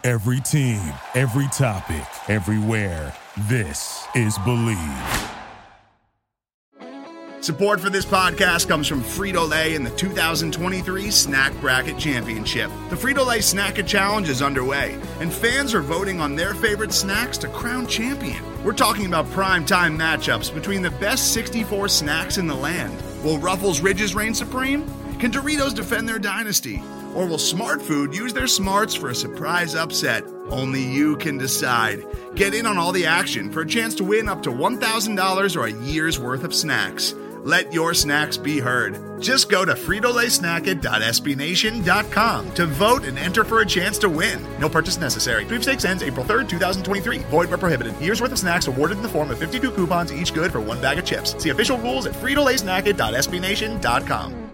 Every team, every topic, everywhere. This is Believe. Support for this podcast comes from Frito-Lay and the 2023 Snack Bracket Championship. The Frito-Lay Snack-It Challenge is underway, and fans are voting on their favorite snacks to crown champion. We're talking about prime-time matchups between the best 64 snacks in the land. Will Ruffles Ridges reign supreme? Can Doritos defend their dynasty? Or will Smart Food use their smarts for a surprise upset? Only you can decide. Get in on all the action for a chance to win up to $1,000 or a year's worth of snacks. Let your snacks be heard. Just go to fritolaysnacket.sbnation.com to vote and enter for a chance to win. No purchase necessary. Sweepstakes ends April 3rd, 2023. Void where prohibited. Year's worth of snacks awarded in the form of 52 coupons, each good for one bag of chips. See official rules at fritolaysnacket.sbnation.com.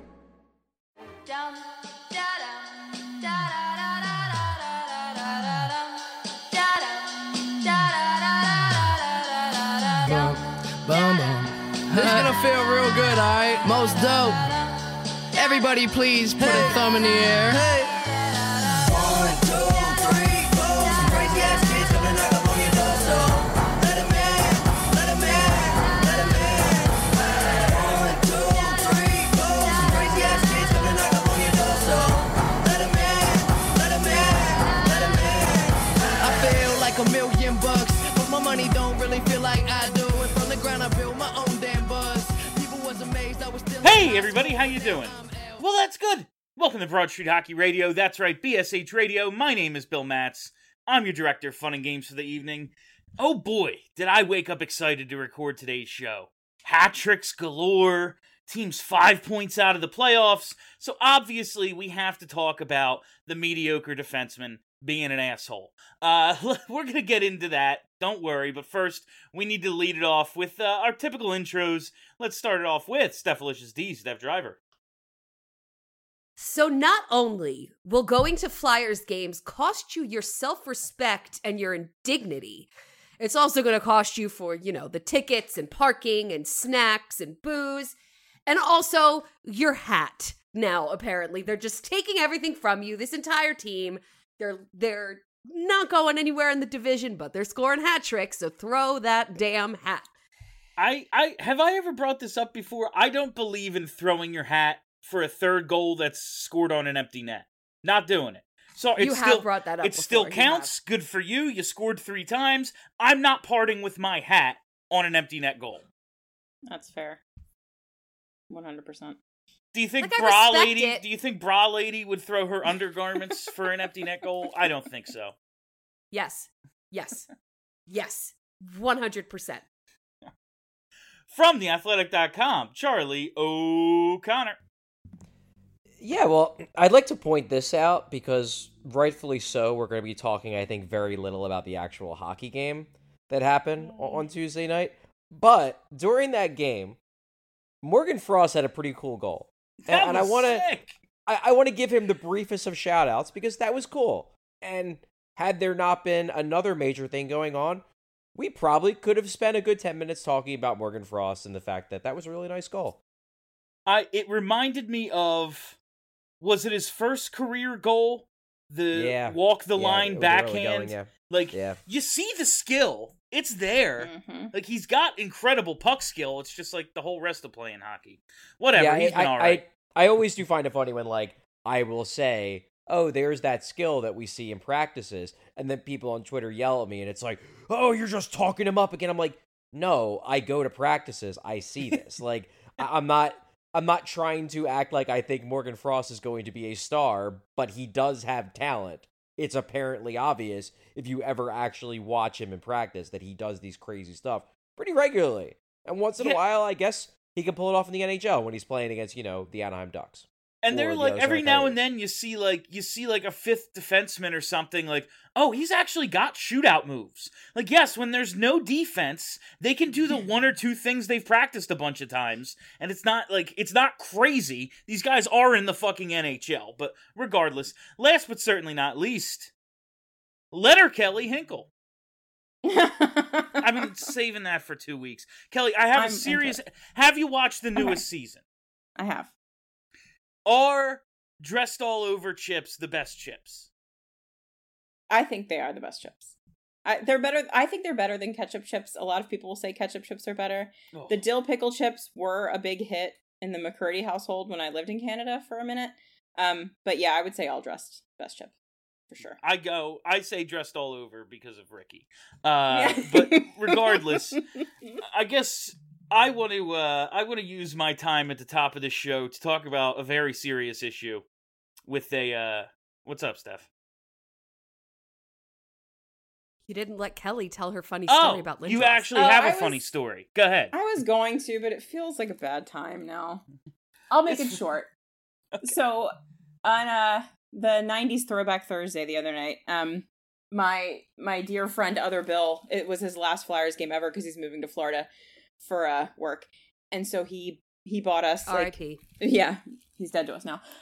This is gonna feel real good, alright? Most dope. Everybody please put a thumb in the air. Hey. 1, 2, 3, 4. Some crazy ass kids gonna knock up on your door, so let 'em in, let 'em in, let 'em in. 1, 2, 3, 4. Some crazy ass kids gonna knock up on your door, so let 'em in, let 'em in, let 'em in. I feel like $1,000,000, but my money don't really feel like I do. And from the ground I built my own damn buzz. People was amazed I was still. Hey everybody, how you doing? Well, that's good. Welcome to Broad Street Hockey Radio. That's right, BSH Radio. My name is Bill Matz. I'm your director of fun and games for the evening. Oh boy, did I wake up excited to record today's show. Hat tricks galore, teams 5 points out of the playoffs, so obviously we have to talk about the mediocre defenseman being an asshole. We're going to get into that, don't worry, but first, we need to lead it off with our typical intros. Let's start it off with Stephalicious D, Steph Driver. So not only will going to Flyers games cost you your self-respect and your indignity, it's also going to cost you for, the tickets and parking and snacks and booze, and also your hat. Now, apparently, they're just taking everything from you, this entire team. They're not going anywhere in the division, but they're scoring hat tricks, so throw that damn hat. I have I ever brought this up before? I don't believe in throwing your hat for a third goal that's scored on an empty net. Not doing it. So you have brought that up It before. still counts. Good for you. You scored 3 times. I'm not parting with my hat on an empty net goal. That's fair. 100%. Do you think It. Do you think Bra Lady would throw her undergarments for an empty net goal? I don't think so. Yes. 100%. From theathletic.com, Charlie O'Connor. Yeah, well, I'd like to point this out because rightfully so, we're going to be talking, I think, very little about the actual hockey game that happened on Tuesday night. But during that game, Morgan Frost had a pretty cool goal. And I want to give him the briefest of shout outs because that was cool. And had there not been another major thing going on, we probably could have spent a good 10 minutes talking about Morgan Frost and the fact that that was a really nice goal. It reminded me of, was it his first career goal? The walk the line backhand? You see the skill. It's there. Mm-hmm. Like, he's got incredible puck skill. It's just like the whole rest of playing hockey. Whatever, he's been all right. I always do find it funny when, I will say, oh, there's that skill that we see in practices, and then people on Twitter yell at me, and it's like, oh, you're just talking him up again. I'm like, no, I go to practices. I see this. I'm not trying to act like I think Morgan Frost is going to be a star, but he does have talent. It's apparently obvious if you ever actually watch him in practice that he does these crazy stuff pretty regularly. And once in a while, I guess he can pull it off in the NHL when he's playing against, the Anaheim Ducks. And they're every now and then you see a fifth defenseman or something oh, he's actually got shootout moves. Yes, when there's no defense, they can do the one or two things they've practiced a bunch of times. And it's not crazy. These guys are in the fucking NHL. But regardless, last but certainly not least, Letterkenny Hinkle. I've been saving that for 2 weeks. Kelly, I have have you watched the newest season? I have. Are dressed all over chips the best chips? I think they are the best chips. They're better. I think they're better than ketchup chips. A lot of people will say ketchup chips are better. Oh. The dill pickle chips were a big hit in the McCurdy household when I lived in Canada for a minute. But yeah, I would say all dressed best chip for sure. I say dressed all over because of Ricky. Yeah. But regardless, I guess I want to use my time at the top of this show to talk about a very serious issue with a what's up, Steph? You didn't let Kelly tell her funny story about Lindros. You actually have a I funny was- story. Go ahead. I was going to, but it feels like a bad time now. I'll make it short. So on the 90s Throwback Thursday the other night, my dear friend Other Bill, it was his last Flyers game ever because he's moving to Florida for work. And so he bought us R.I.P. yeah, he's dead to us now.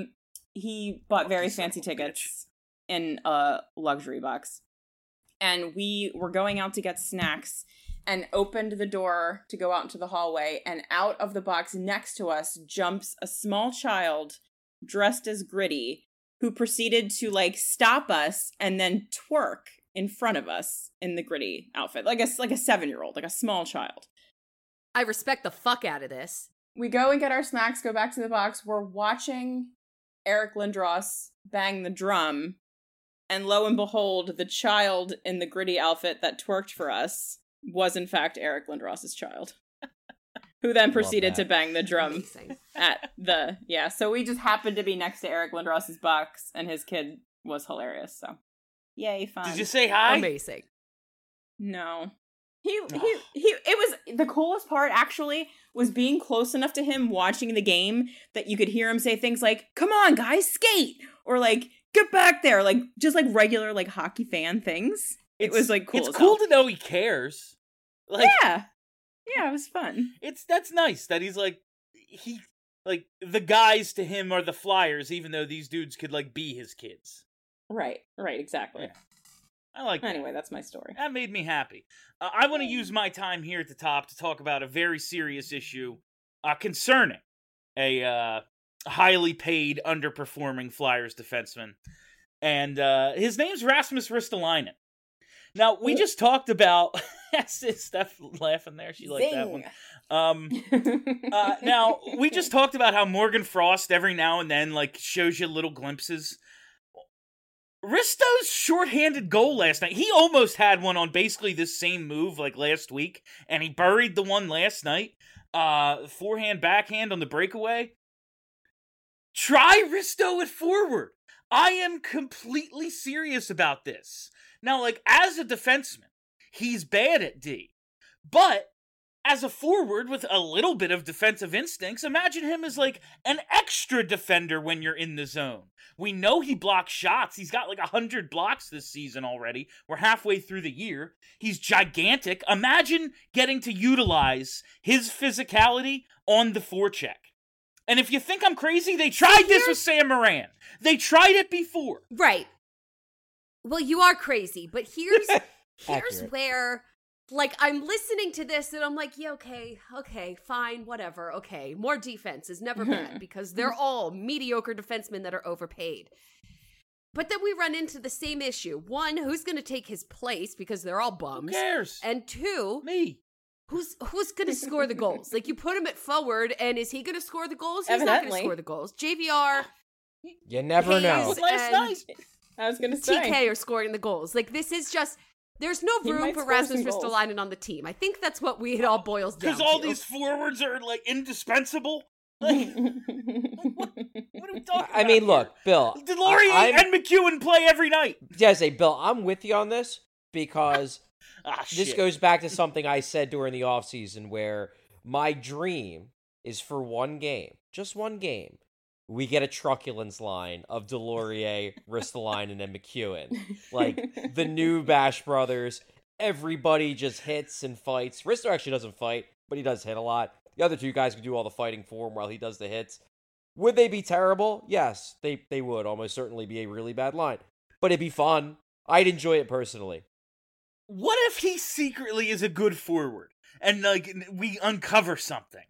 He bought very Lucky son fancy of a bitch. tickets in a luxury box. And we were going out to get snacks and opened the door to go out into the hallway, and out of the box next to us jumps a small child dressed as Gritty, who proceeded to like stop us and then twerk in front of us in the Gritty outfit, like a 7-year-old, like a small child. I respect the fuck out of this. We go and get our snacks, go back to the box. We're watching Eric Lindros bang the drum. And lo and behold, the child in the Gritty outfit that twerked for us was in fact Eric Lindros' child. Who then proceeded to bang the drum Amazing. at the... Yeah, so we just happened to be next to Eric Lindros' box, and his kid was hilarious, so... Yay, fun. Did you say hi? Amazing. No. It was the coolest part actually was being close enough to him watching the game that you could hear him say things like, "Come on, guys, skate," or like, "Get back there," like just like regular like hockey fan things. It was like cool. It's as cool hell. to know he cares. Like, yeah, it was fun. that's nice that he's like the guys to him are the Flyers, even though these dudes could like be his kids. Right, exactly. Yeah. I like that. Anyway, that's my story. That made me happy. I want to use my time here at the top to talk about a very serious issue concerning a highly paid, underperforming Flyers defenseman. And his name's Rasmus Ristolainen. Now, we just talked about... Steph laughing there. She liked that one. Now, we just talked about how Morgan Frost every now and then like shows you little glimpses. Risto's shorthanded goal last night, he almost had one on basically this same move like last week, and he buried the one last night. Forehand, backhand on the breakaway. Try Risto at forward. I am completely serious about this. Now, like, as a defenseman, he's bad at D. But as a forward with a little bit of defensive instincts, imagine him as like an extra defender when you're in the zone. We know he blocks shots. He's got like 100 blocks this season already. We're halfway through the year. He's gigantic. Imagine getting to utilize his physicality on the forecheck. And if you think I'm crazy, they tried this with Sam Moran. They tried it before. Right. Well, you are crazy, but here's Accurate. where, like, I'm listening to this and I'm like, yeah, okay, fine, whatever, okay. More defense is never bad because they're all mediocre defensemen that are overpaid. But then we run into the same issue. One, who's going to take his place because they're all bums? Who cares? And two, Me. who's going to score the goals? Like, you put him at forward, and is he going to score the goals? He's not going Evidently. to score the goals. JVR, You never know. Hayes, Last and night. I was gonna say. TK are scoring the goals. Like, this is just... There's no He room might for score Rasmus some goals. Ristolainen on the team. I think that's what it all boils down to. Because all these forwards are like indispensable. Like, what are we talking about? I mean, look, Bill. Delorier I'm- and McEwen play every night. Yeah, I say, Bill, I'm with you on this because this Shit. goes back to something I said during the offseason where my dream is for one game, just one game. We get a truculence line of Delorier, Ristolainen, and McEwen. Like, the new Bash Brothers. Everybody just hits and fights. Risto actually doesn't fight, but he does hit a lot. The other two guys can do all the fighting for him while he does the hits. Would they be terrible? Yes, they would almost certainly be a really bad line. But it'd be fun. I'd enjoy it personally. What if he secretly is a good forward and like we uncover something?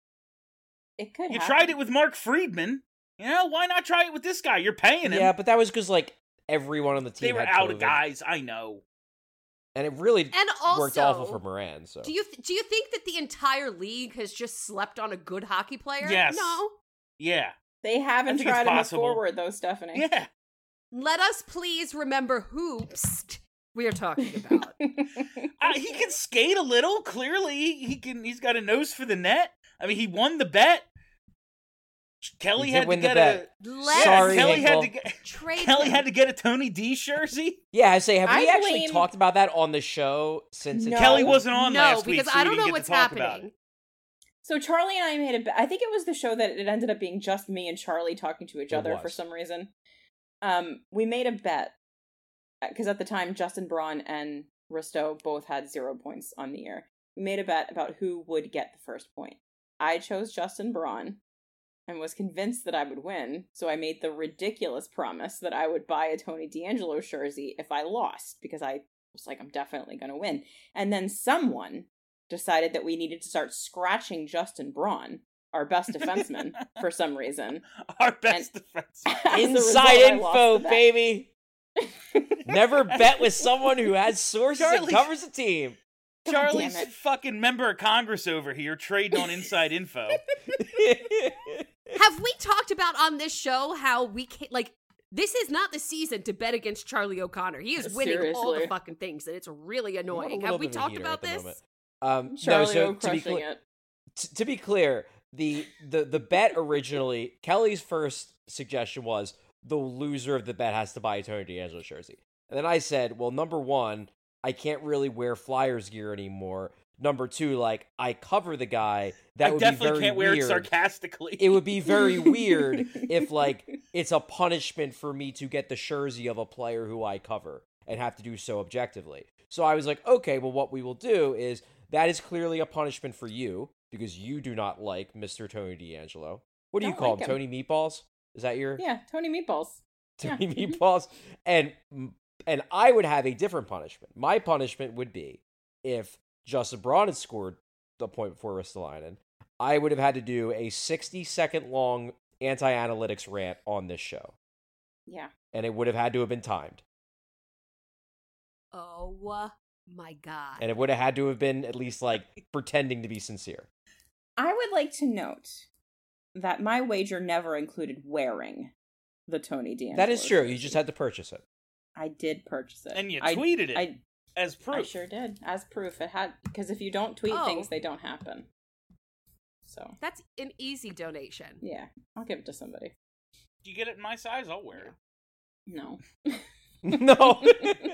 It could. You happen. tried it with Mark Friedman. You know, why not try it with this guy? You're paying him. Yeah, but that was because, like, everyone on the team They were had out COVID, of guys. I know. and it really And also, worked awful for Moran. So do you think that the entire league has just slept on a good hockey player? Yes. No. Yeah. They haven't think it's tried to move possible. forward, though, Stephanie. Yeah. Let us please remember who we are talking about. He can skate a little. Clearly, he's got a nose for the net. I mean, he won the bet. Kelly He did had to win the get bet. Let Sorry, Kelly had Hinkle. to get. trade Kelly him. had to get a Tony D jersey. yeah, I say, have I we actually blame- talked about that on the show since? No. Kelly wasn't on No, last week, because so I we don't didn't know get what's to talk about happening. it. So Charlie and I made a bet. I think it was the show that it ended up being just me and Charlie talking to each It other was. for some reason. We made a bet because at the time Justin Braun and Risto both had 0 points on the year. We made a bet about who would get the first point. I chose Justin Braun and was convinced that I would win, so I made the ridiculous promise that I would buy a Tony D'Angelo jersey if I lost, because I was like, I'm definitely going to win. And then someone decided that we needed to start scratching Justin Braun, our best defenseman, for some reason. Our best defense. As a result, Inside I info, lost the bet. baby. Never bet with someone who has sources and Charlie- covers the team. Charlie's damn it. fucking member of Congress over here trading on inside info. Have we talked about on this show how we can't, like, this is not the season to bet against Charlie O'Connor. He is winning all the Seriously. fucking things, and it's really I'm a annoying. little Have we bit of a talked heater about at the this? moment. Charlie no, O so to be crushing clear, it. to be clear, the bet originally, Kelly's first suggestion was the loser of the bet has to buy a Tony D'Angelo jersey. And then I said, well, number one, I can't really wear Flyers gear anymore. Number two, like, I cover the guy. That I would definitely be very can't wear it weird. sarcastically. It would be very weird if, like, it's a punishment for me to get the jersey of a player who I cover and have to do so objectively. So I was like, okay, well, what we will do is that is clearly a punishment for you because you do not like Mr. Tony D'Angelo. What do you Don't call like him? him. Tony Meatballs? Is that your Yeah, Tony Meatballs. Tony Meatballs? And I would have a different punishment. My punishment would be if Justin Braun had scored the point before Ristolainen, I would have had to do a 60-second long anti-analytics rant on this show. Yeah. And it would have had to have been timed. Oh my god. And it would have had to have been at least, like, pretending to be sincere. I would like to note that my wager never included wearing the Tony D'Angelo. That is true. You jersey. just had to purchase it. I did purchase it. And you I- tweeted it I as proof. I sure did. As proof. It had, because if you don't tweet Oh. things, they don't happen. So, That's an easy donation. yeah, I'll give it to somebody. You get it in my size, I'll wear it. No. No.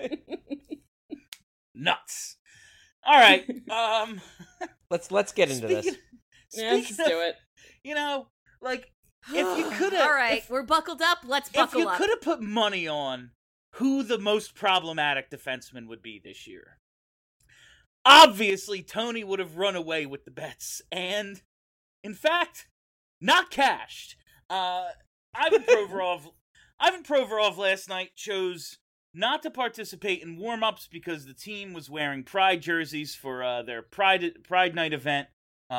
Nuts. All right. Let's get into this. Yeah, let's speaking do of, it. you know, like, if you could have, All right, we're buckled up. Let's if buckle you up. could have put money on who the most problematic defenseman would be this year, obviously Tony would have run away with the bets, and in fact, not cashed. Ivan Provorov last night chose not to participate in warm-ups because the team was wearing Pride jerseys for their Pride Night event.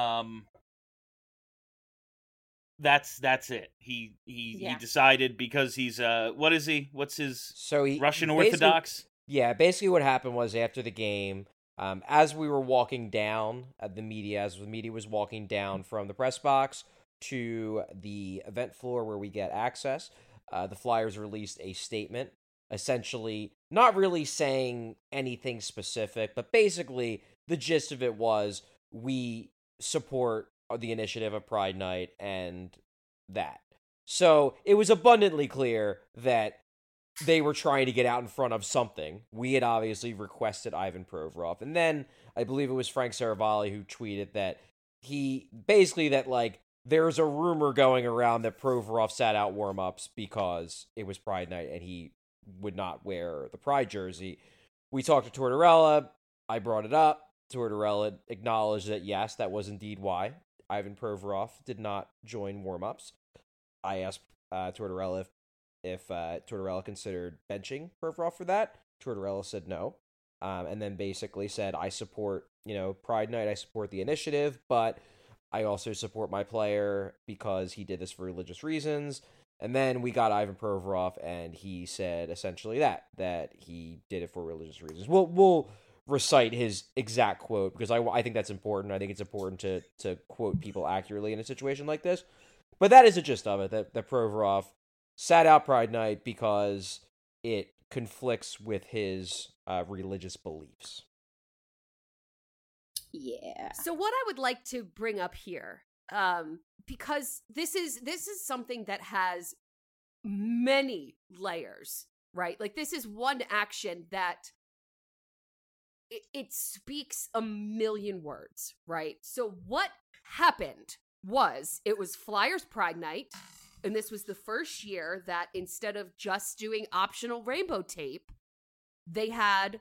That's it. He decided because he's what is he? What's his So he Russian basically- Orthodox? Yeah, basically what happened was after the game, as we were walking down as the media was walking down from the press box to the event floor where we get access, the Flyers released a statement, essentially not really saying anything specific, but basically the gist of it was we support the initiative of Pride Night and that. So it was abundantly clear that they were trying to get out in front of something. We had obviously requested Ivan Provorov. And then I believe it was Frank Saravalli who tweeted that there's a rumor going around that Provorov sat out warm-ups because it was Pride Night and he would not wear the Pride jersey. We talked to Tortorella. I brought it up. Tortorella acknowledged that, yes, that was indeed why Ivan Provorov did not join warm-ups. I asked Tortorella if Tortorella considered benching Provorov for that. Tortorella said no, and then basically said, I support, Pride Night, I support the initiative, but I also support my player because he did this for religious reasons, And then we got Ivan Provorov, and he said essentially that he did it for religious reasons. We'll recite his exact quote because I think that's important. I think it's important to quote people accurately in a situation like this. But that is the gist of it, that Provorov sat out Pride Night because it conflicts with his religious beliefs. Yeah. So what I would like to bring up here, because this is something that has many layers, right? Like this is one action that it speaks a million words, right? So what happened was it was Flyers Pride Night, and this was the first year that instead of just doing optional rainbow tape, they had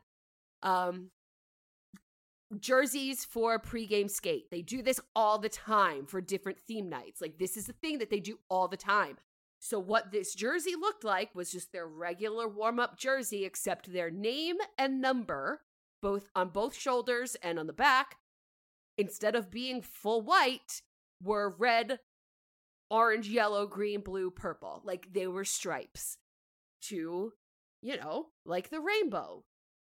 jerseys for a pregame skate. They do this all the time for different theme nights. Like this is the thing that they do all the time. So what this jersey looked like was just their regular warm-up jersey, except their name and number, both on both shoulders and on the back, instead of being full white, were red, orange, yellow, green, blue, purple. Like they were stripes to, like the rainbow.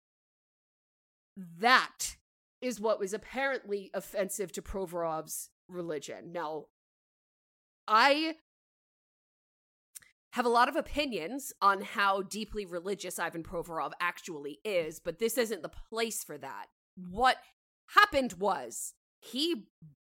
That is what was apparently offensive to Provorov's religion. Now, I have a lot of opinions on how deeply religious Ivan Provorov actually is, but this isn't the place for that. What happened was he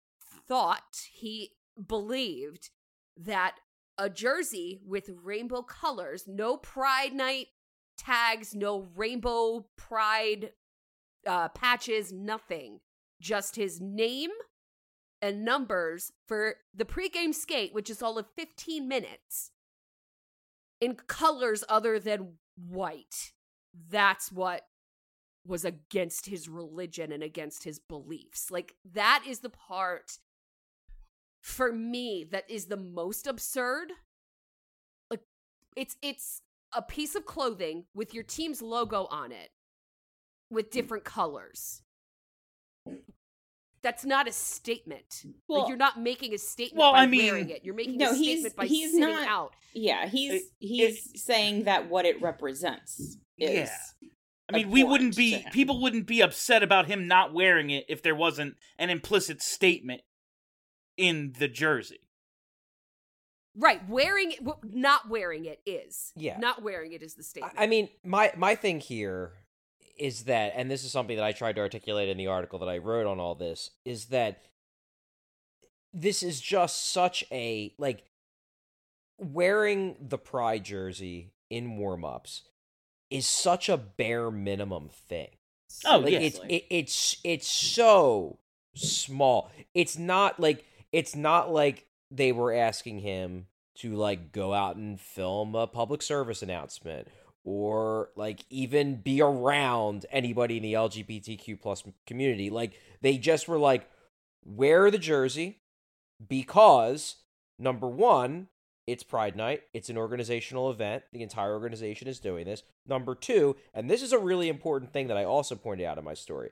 believed that a jersey with rainbow colors, no Pride Night tags, no rainbow Pride patches, nothing. Just his name and numbers for the pregame skate, which is all of 15 minutes, in colors other than white. That's what was against his religion and against his beliefs. Like, that is the part, for me, that is the most absurd. Like, it's a piece of clothing with your team's logo on it, with different colors. That's not a statement. Well, like, you're not making a statement by wearing it. You're making a statement by sitting out. Yeah, he's saying that what it represents is. Yeah. I mean, people wouldn't be upset about him not wearing it if there wasn't an implicit statement in the jersey. Right, not wearing it is. Yeah. Not wearing it is the statement. I mean, my thing here is that, and this is something that I tried to articulate in the article that I wrote on all this, is that this is just such a, like, wearing the Pride jersey in warm-ups is such a bare minimum thing. Oh, like, yes. It's so small. It's not like they were asking him to, like, go out and film a public service announcement or, like, even be around anybody in the LGBTQ plus community. Like, they just were like, wear the jersey because, number one, it's Pride Night. It's an organizational event. The entire organization is doing this. Number two, and this is a really important thing that I also pointed out in my story,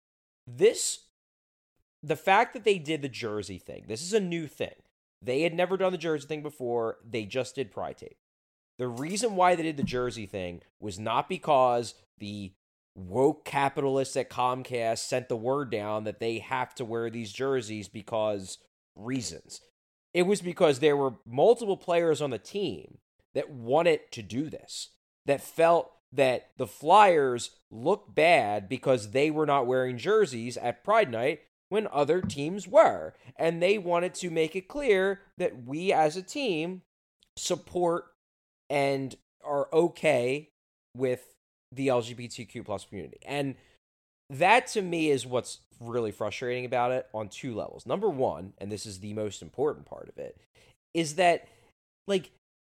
the fact that they did the jersey thing, this is a new thing. They had never done the jersey thing before. They just did Pride Tape. The reason why they did the jersey thing was not because the woke capitalists at Comcast sent the word down that they have to wear these jerseys because reasons. It was because there were multiple players on the team that wanted to do this, that felt that the Flyers looked bad because they were not wearing jerseys at Pride Night when other teams were. And they wanted to make it clear that we as a team support and are okay with the LGBTQ plus community. And that, to me, is what's really frustrating about it on two levels. Number one, and this is the most important part of it, is that, like,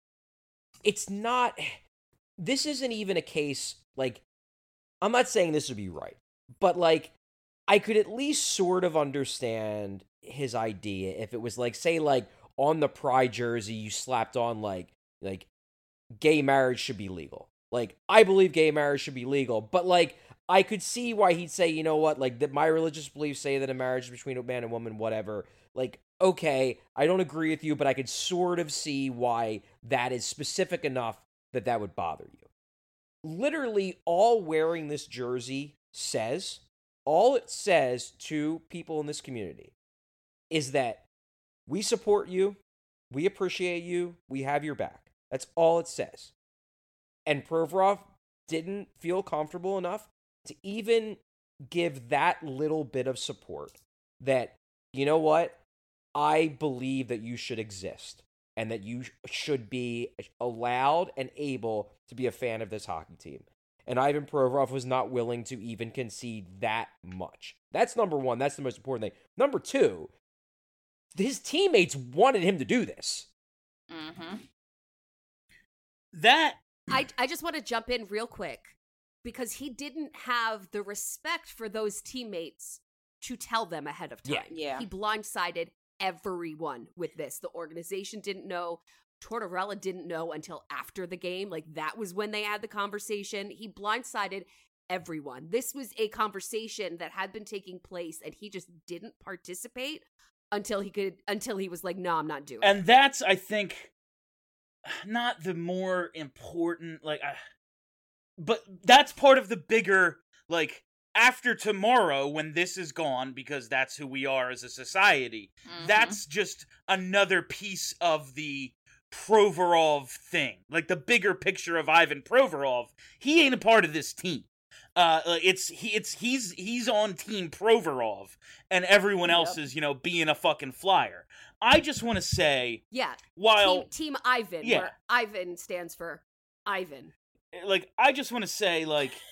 this isn't even a case, like, I'm not saying this would be right, but, like, I could at least sort of understand his idea if it was, like, say, like, on the Pride jersey, you slapped on, like, gay marriage should be legal. Like, I believe gay marriage should be legal, but, like, I could see why he'd say, you know what, like, that my religious beliefs say that a marriage is between a man and woman, whatever. Like, okay, I don't agree with you, but I could sort of see why that is specific enough that would bother you. Literally, all wearing this jersey all it says to people in this community is that we support you, we appreciate you, we have your back. That's all it says. And Provorov didn't feel comfortable enough to even give that little bit of support that, you know what, I believe that you should exist and that you should be allowed and able to be a fan of this hockey team. And Ivan Provorov was not willing to even concede that much. That's number one. That's the most important thing. Number two, his teammates wanted him to do this. Mm-hmm. That I just want to jump in real quick because he didn't have the respect for those teammates to tell them ahead of time. Yeah. He blindsided everyone with this. The organization didn't know. Tortorella didn't know until after the game. Like, that was when they had the conversation. He blindsided everyone. This was a conversation that had been taking place, and he just didn't participate until he was like, no, I'm not doing it. And that's, I think, not the more important, but that's part of the bigger, after tomorrow, when this is gone, because that's who we are as a society, that's just another piece of the Provorov thing. Like, the bigger picture of Ivan Provorov, he ain't a part of this team. He's on Team Provorov, and everyone else is, being a fucking flyer. I just want to say, while Team Ivan, where Ivan stands for Ivan. I just want to say,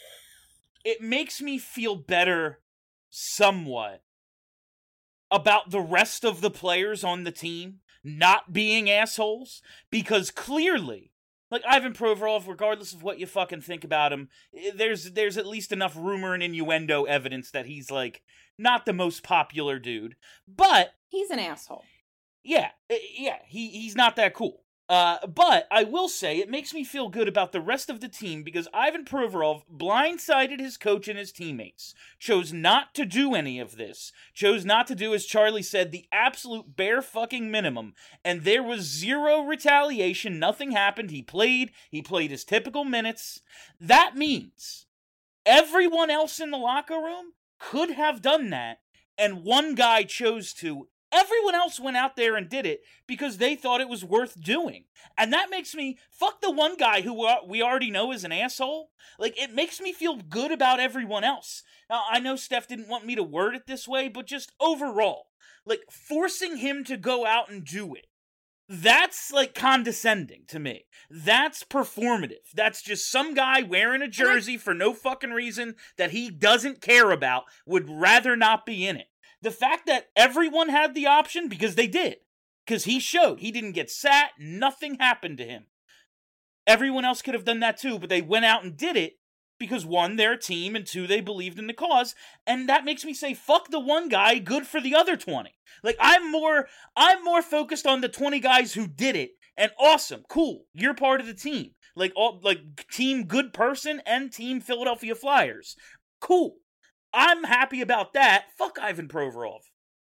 it makes me feel better somewhat about the rest of the players on the team not being assholes, because clearly, Ivan Provorov, regardless of what you fucking think about him, there's at least enough rumor and innuendo evidence that he's, not the most popular dude, but he's an asshole. Yeah, he's not that cool. But I will say it makes me feel good about the rest of the team because Ivan Provorov blindsided his coach and his teammates, chose not to do any of this, chose not to do, as Charlie said, the absolute bare fucking minimum, and there was zero retaliation, nothing happened, he played his typical minutes. That means everyone else in the locker room could have done that, and one guy chose to. Everyone else went out there and did it because they thought it was worth doing. And that makes me, fuck the one guy who we already know is an asshole. It makes me feel good about everyone else. Now, I know Steph didn't want me to word it this way, but just overall, forcing him to go out and do it. That's, condescending to me. That's performative. That's just some guy wearing a jersey for no fucking reason that he doesn't care about, would rather not be in it. The fact that everyone had the option, because they did, because he showed, he didn't get sat, nothing happened to him. Everyone else could have done that too, but they went out and did it because one, they're a team, and two, they believed in the cause, and that makes me say, fuck the one guy, good for the other 20. I'm more focused on the 20 guys who did it, and awesome, cool, you're part of the team. Team good person and Team Philadelphia Flyers. Cool. I'm happy about that. Fuck Ivan Provorov.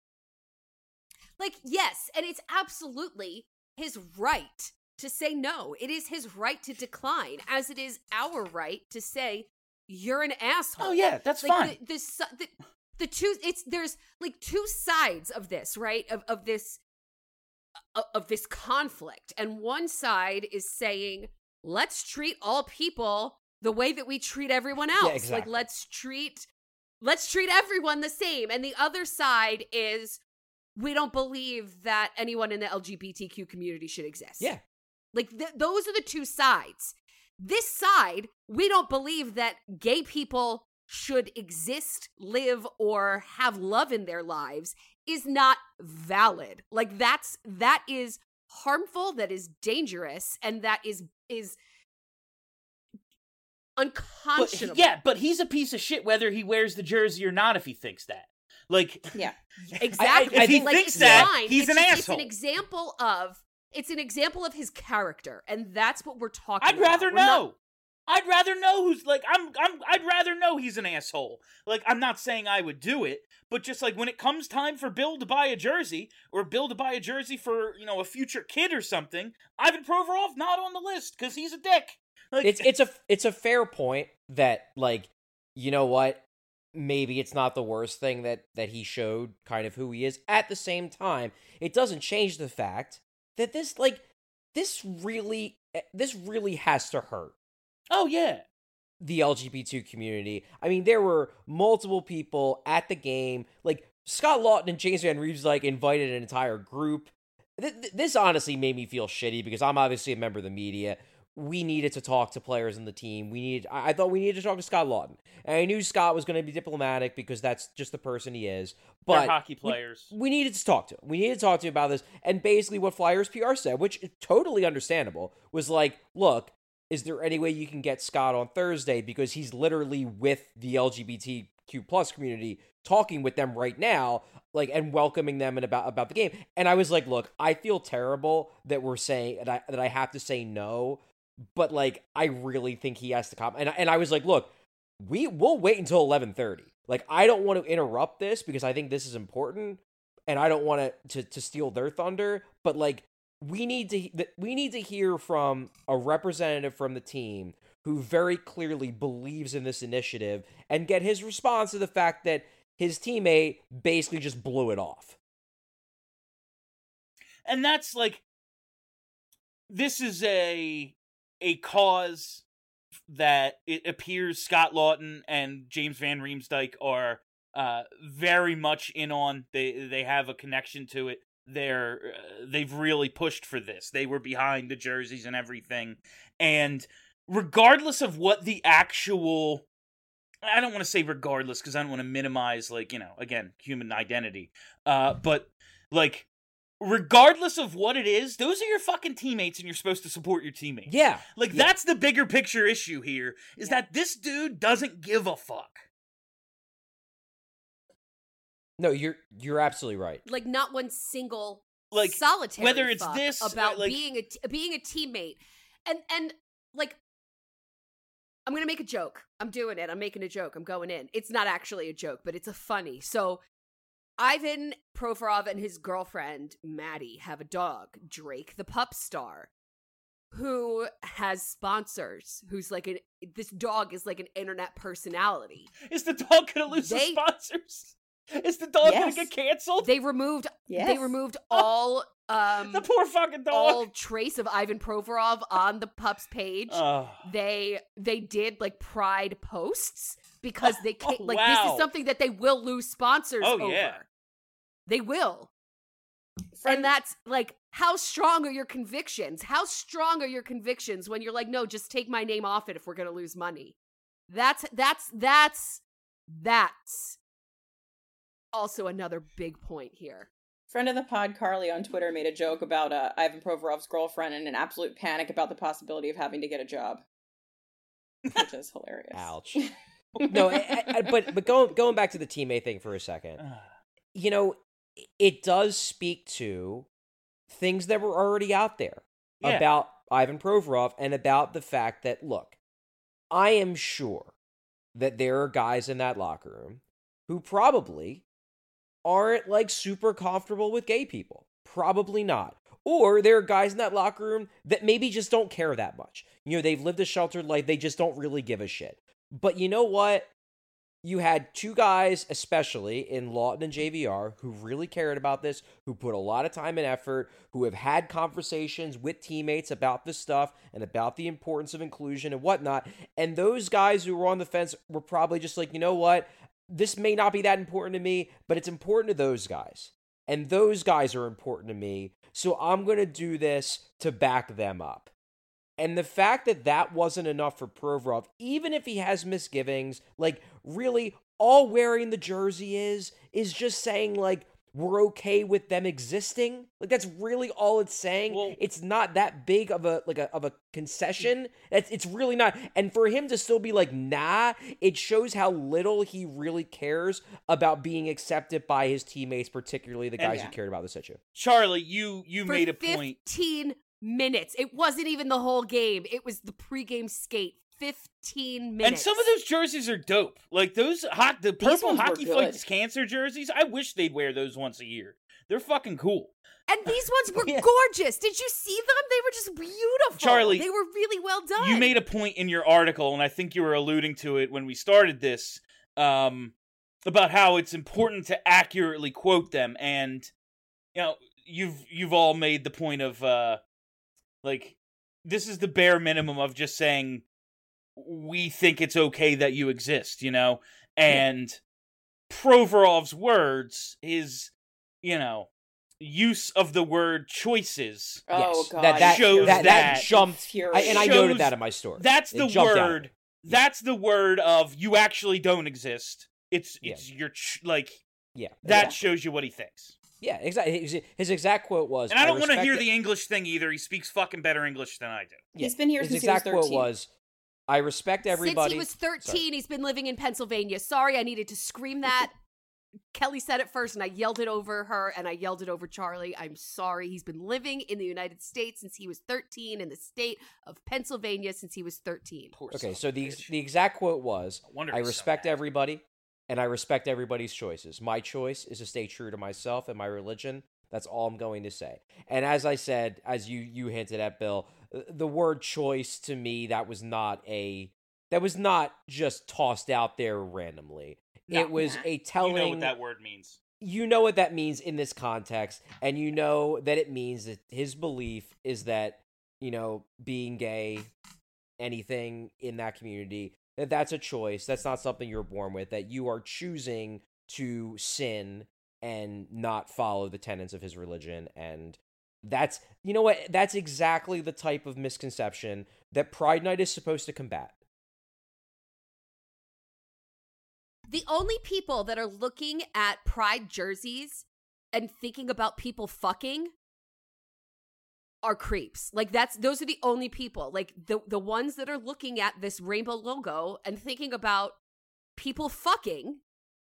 Yes, and it's absolutely his right to say no. It is his right to decline, as it is our right to say you're an asshole. Oh yeah, that's fine. The two, there's two sides of this, right? Of this conflict, and one side is saying, let's treat all people the way that we treat everyone else. Yeah, exactly. Let's treat everyone the same. And the other side is, we don't believe that anyone in the LGBTQ community should exist. Yeah. Those are the two sides. This side, we don't believe that gay people should exist, live, or have love in their lives, is not valid. That is harmful, that is dangerous, and that is unconscionable. But he's a piece of shit whether he wears the jersey or not if he thinks that. Yeah. Exactly. If he thinks that, he's an asshole. It's an example of his character, and that's what we're talking I'd about. rather know. I'd rather know who's like I'd rather know he's an asshole. Like, I'm not saying I would do it, but just like when it comes time for Bill to buy a jersey, or Bill to buy a jersey for, a future kid or something, Ivan Provorov not on the list because he's a dick. Like, it's a fair point that, like, you know what? Maybe it's not the worst thing that he showed kind of who he is. At the same time, it doesn't change the fact that this really has to hurt. Oh, yeah. The LGBT community. I mean, there were multiple people at the game. Like, Scott Lawton and James Van Riemsdyk, like, invited an entire group. This honestly made me feel shitty because I'm obviously a member of the media. We needed to talk to players in the team. I thought we needed to talk to Scott Lawton. And I knew Scott was going to be diplomatic because that's just the person he is. But they're hockey players. We needed to talk to him. We needed to talk to him about this. And basically what Flyers PR said, which is totally understandable, was like, look, is there any way you can get Scott on Thursday? Because he's literally with the LGBTQ plus community, talking with them right now, like, and welcoming them and about the game. And I was like, look, I feel terrible that we're saying that I have to say no, but like, I really think he has to come. And I was like, look, we'll wait until 11:30. Like, I don't want to interrupt this because I think this is important, and I don't want to steal their thunder. But like, we need to hear from a representative from the team who very clearly believes in this initiative and get his response to the fact that his teammate basically just blew it off. And that's like, this is a cause that it appears Scott Lawton and James Van Riemsdyk are very much in on. They have a connection to it. They've really pushed for this. They were behind the jerseys and everything. And regardless of what the actual, I don't want to say regardless because I don't want to minimize, like, again, human identity. But like, regardless of what it is, those are your fucking teammates and you're supposed to support your teammates. Yeah. Like, that's the bigger picture issue here, is that this dude doesn't give a fuck. No, you're absolutely right. Like, not one single, like, solitary whether it's fuck this about like, being a teammate, and like, I'm gonna make a joke. I'm doing it. I'm making a joke. I'm going in. It's not actually a joke, but it's a funny. So, Ivan Provorov and his girlfriend Maddie have a dog, Drake the pup star, who has sponsors. Who's like this dog is like an internet personality. Is the dog gonna lose his sponsors? Is the dog gonna get canceled? They removed all the poor fucking dog. All trace of Ivan Provorov on the pup's page. They did like pride posts because they can't this is something that they will lose sponsors over. Yeah. They will. And that's like, how strong are your convictions? How strong are your convictions when you're like, no, just take my name off it if we're gonna lose money? That's also another big point here. Friend of the pod, Carly, on Twitter made a joke about Ivan Provorov's girlfriend and an absolute panic about the possibility of having to get a job, which is hilarious. Ouch. No, but going back to the teammate thing for a second, it does speak to things that were already out there about Ivan Provorov and about the fact that, look, I am sure that there are guys in that locker room who probably aren't like super comfortable with gay people. Probably not. Or there are guys in that locker room that maybe just don't care that much. They've lived a sheltered life. They just don't really give a shit. But you know what? You had two guys, especially in Lawton and JVR, who really cared about this, who put a lot of time and effort, who have had conversations with teammates about this stuff and about the importance of inclusion and whatnot. And those guys who were on the fence were probably just like, you know what? This may not be that important to me, but it's important to those guys. And those guys are important to me, so I'm going to do this to back them up. And the fact that that wasn't enough for Provorov, even if he has misgivings, like, really, all wearing the jersey is just saying, like, we're okay with them existing. Like, that's really all it's saying. Well, it's not that big of a concession. It's really not. And for him to still be like, nah, it shows how little he really cares about being accepted by his teammates, particularly the guys who cared about this issue. Charlie, you made a point. 15 minutes. It wasn't even the whole game. It was the pregame skate. 15 minutes. And some of those jerseys are dope. Like the purple ones were Hockey good. Fights Cancer jerseys. I wish they'd wear those once a year. They're fucking cool. And these ones were Yeah. gorgeous. Did you see them? They were just beautiful. Charlie, they were really well done. You made a point in your article, and I think you were alluding to it when we started this, about how it's important to accurately quote them. And you've all made the point of like, this is the bare minimum of just saying we think it's okay that you exist, and Provorov's words, his use of the word choices. Oh God, that shows that jumped, infuriating. I noted that in my story. That's It the jumped out. word. That's the word of you actually don't exist. It's Yeah. your Yeah, that shows you what he thinks. yeah, exactly. His exact quote was, And I don't want to respect hear it- the English thing either. He speaks fucking better English than I do. He's been here his since he was exact quote 13. was, I respect everybody. Since he was 13, he's been living in Pennsylvania. Sorry, I needed to scream that. Kelly said it first, and I yelled it over her, and I yelled it over Charlie. I'm sorry. He's been living in the United States since he was 13, in the state of Pennsylvania since he was 13. Poor Okay, son of so a the bitch. exact quote was, No wonder I he's so respect mad. everybody, and I respect everybody's choices. My choice is to stay true to myself and my religion. That's all I'm going to say. And as I said, as you hinted at, Bill, the word choice to me, that was not just tossed out there randomly. No. It was a telling. You know what that word means. You know what that means in this context, and you know that it means that his belief is that, being gay, anything in that community, that's a choice. That's not something you're born with, that you are choosing to sin and not follow the tenets of his religion. And that's, that's exactly the type of misconception that Pride Night is supposed to combat. The only people that are looking at Pride jerseys and thinking about people fucking are creeps. Like those are the only people. Like the ones that are looking at this rainbow logo and thinking about people fucking.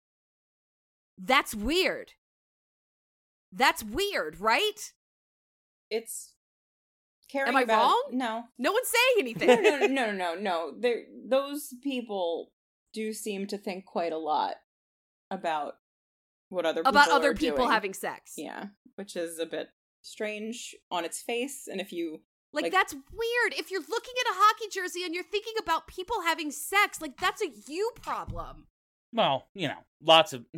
That's weird. That's weird, right? It's caring Am I about, wrong? No. No one's saying anything. No. Those people do seem to think quite a lot about what other people About other are people doing. having sex. Yeah, which is a bit strange on its face. And if you Like, that's weird. If you're looking at a hockey jersey and you're thinking about people having sex, like, that's a you problem. Well, lots of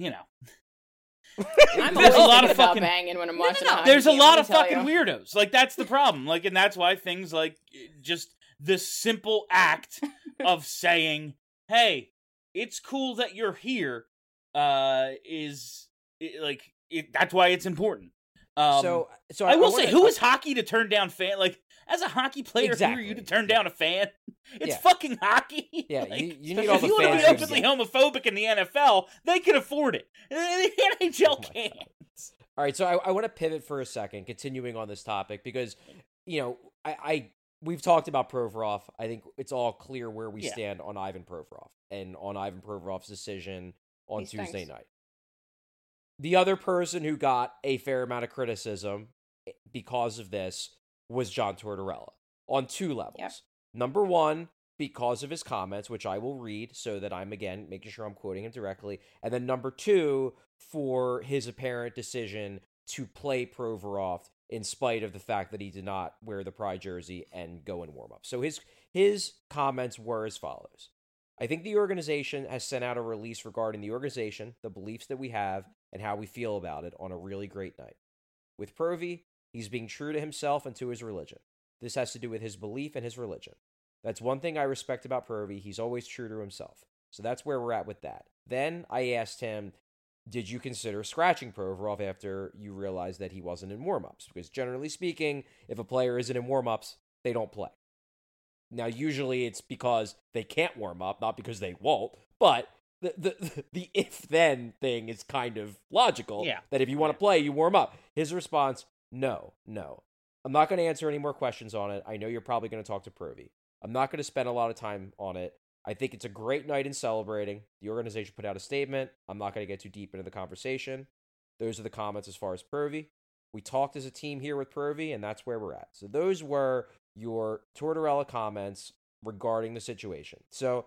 I'm There's always a lot thinking of about fucking- banging when I'm No, watching. no. a hockey There's a game, lot let of me tell fucking you. weirdos. Like, that's the problem. Like, and that's why things like just the simple act of saying, "Hey, it's cool that you're here," is that's why it's important. So I will say, wanna- who is hockey to turn down fan? Like, as a hockey player, who are you Exactly. to turn down a fan? It's Yeah. fucking hockey. Yeah, Like, you need all if the you want to fans be you openly can homophobic in the NFL, they can afford it. The NHL Oh my can't. All right, so I want to pivot for a second, continuing on this topic, because, we've talked about Provorov. I think it's all clear where we Yeah. stand on Ivan Provorov and on Ivan Provorov's decision on He Tuesday stinks. night. The other person who got a fair amount of criticism because of this was John Tortorella on two levels. Yep. Number one, because of his comments, which I will read so that I'm, again, making sure I'm quoting him directly. And then number two, for his apparent decision to play Provorov in spite of the fact that he did not wear the Pride jersey and go in warm-up. So his comments were as follows. I think the organization has sent out a release regarding the organization, the beliefs that we have, and how we feel about it on a really great night. With Provy, he's being true to himself and to his religion. This has to do with his belief and his religion. That's one thing I respect about Provy. He's always true to himself. So that's where we're at with that. Then I asked him, did you consider scratching Provorov after you realized that he wasn't in warm-ups? Because generally speaking, if a player isn't in warm-ups, they don't play. Now, usually it's because they can't warm up, not because they won't. But the if-then thing is kind of logical. Yeah. That if you want to play, you warm up. His response, no. I'm not going to answer any more questions on it. I know you're probably going to talk to Provy. I'm not going to spend a lot of time on it. I think it's a great night in celebrating. The organization put out a statement. I'm not going to get too deep into the conversation. Those are the comments as far as Provy. We talked as a team here with Provy, and that's where we're at. So those were your Tortorella comments regarding the situation. So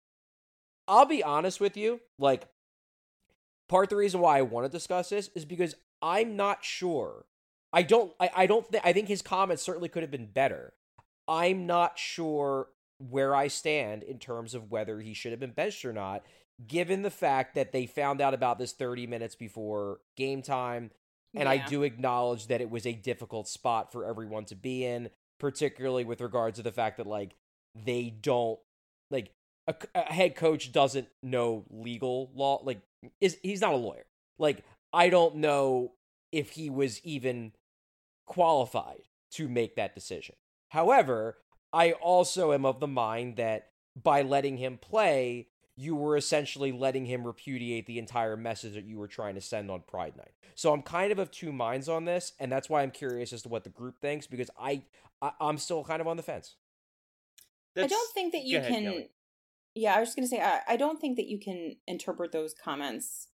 I'll be honest with you, like, part of the reason why I want to discuss this is because I'm not sure. I think his comments certainly could have been better. I'm not sure where I stand in terms of whether he should have been benched or not, given the fact that they found out about this 30 minutes before game time. And I do acknowledge that it was a difficult spot for everyone to be in, particularly with regards to the fact that, like, they don't, like, a head coach doesn't know legal law. Like, he's not a lawyer. Like, I don't know if he was even qualified to make that decision. However, I also am of the mind that by letting him play, you were essentially letting him repudiate the entire message that you were trying to send on Pride Night. So I'm kind of two minds on this, and that's why I'm curious as to what the group thinks, because I'm still kind of on the fence. I don't think that you can... Kelly. Yeah, I was just going to say, I don't think that you can interpret those comments.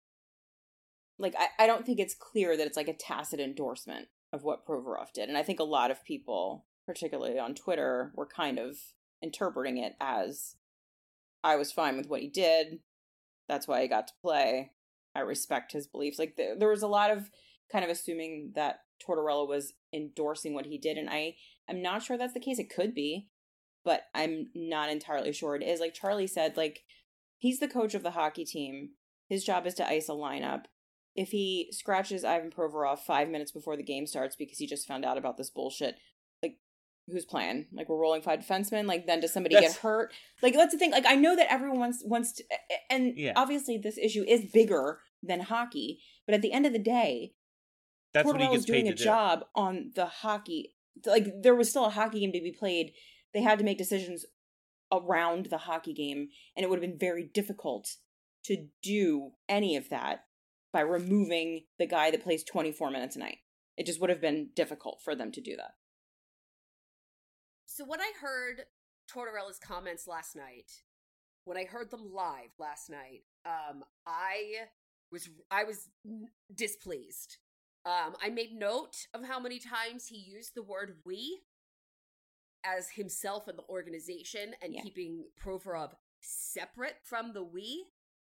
Like, I don't think it's clear that it's like a tacit endorsement of what Provorov did. And I think a lot of people, particularly on Twitter, were kind of interpreting it as, I was fine with what he did. That's why I got to play. I respect his beliefs. Like, there was a lot of kind of assuming that Tortorella was endorsing what he did. And I'm not sure that's the case. It could be, but I'm not entirely sure it is. Like Charlie said, like, he's the coach of the hockey team. His job is to ice a lineup. If he scratches Ivan Provorov 5 minutes before the game starts because he just found out about this bullshit, like, who's playing? Like, we're rolling 5 defensemen? Like, then does somebody get hurt? Like, that's the thing. Like, I know that everyone wants to, and obviously this issue is bigger than hockey, but at the end of the day, that's what he Tortorella gets was doing paid a to do. job on the hockey. Like, there was still a hockey game to be played. They had to make decisions around the hockey game, and it would have been very difficult to do any of that by removing the guy that plays 24 minutes a night. It just would have been difficult for them to do that. So when I heard Tortorella's comments last night, when I heard them live last night, I was displeased. I made note of how many times he used the word "we" as himself and the organization, and keeping Provorov separate from the "we,"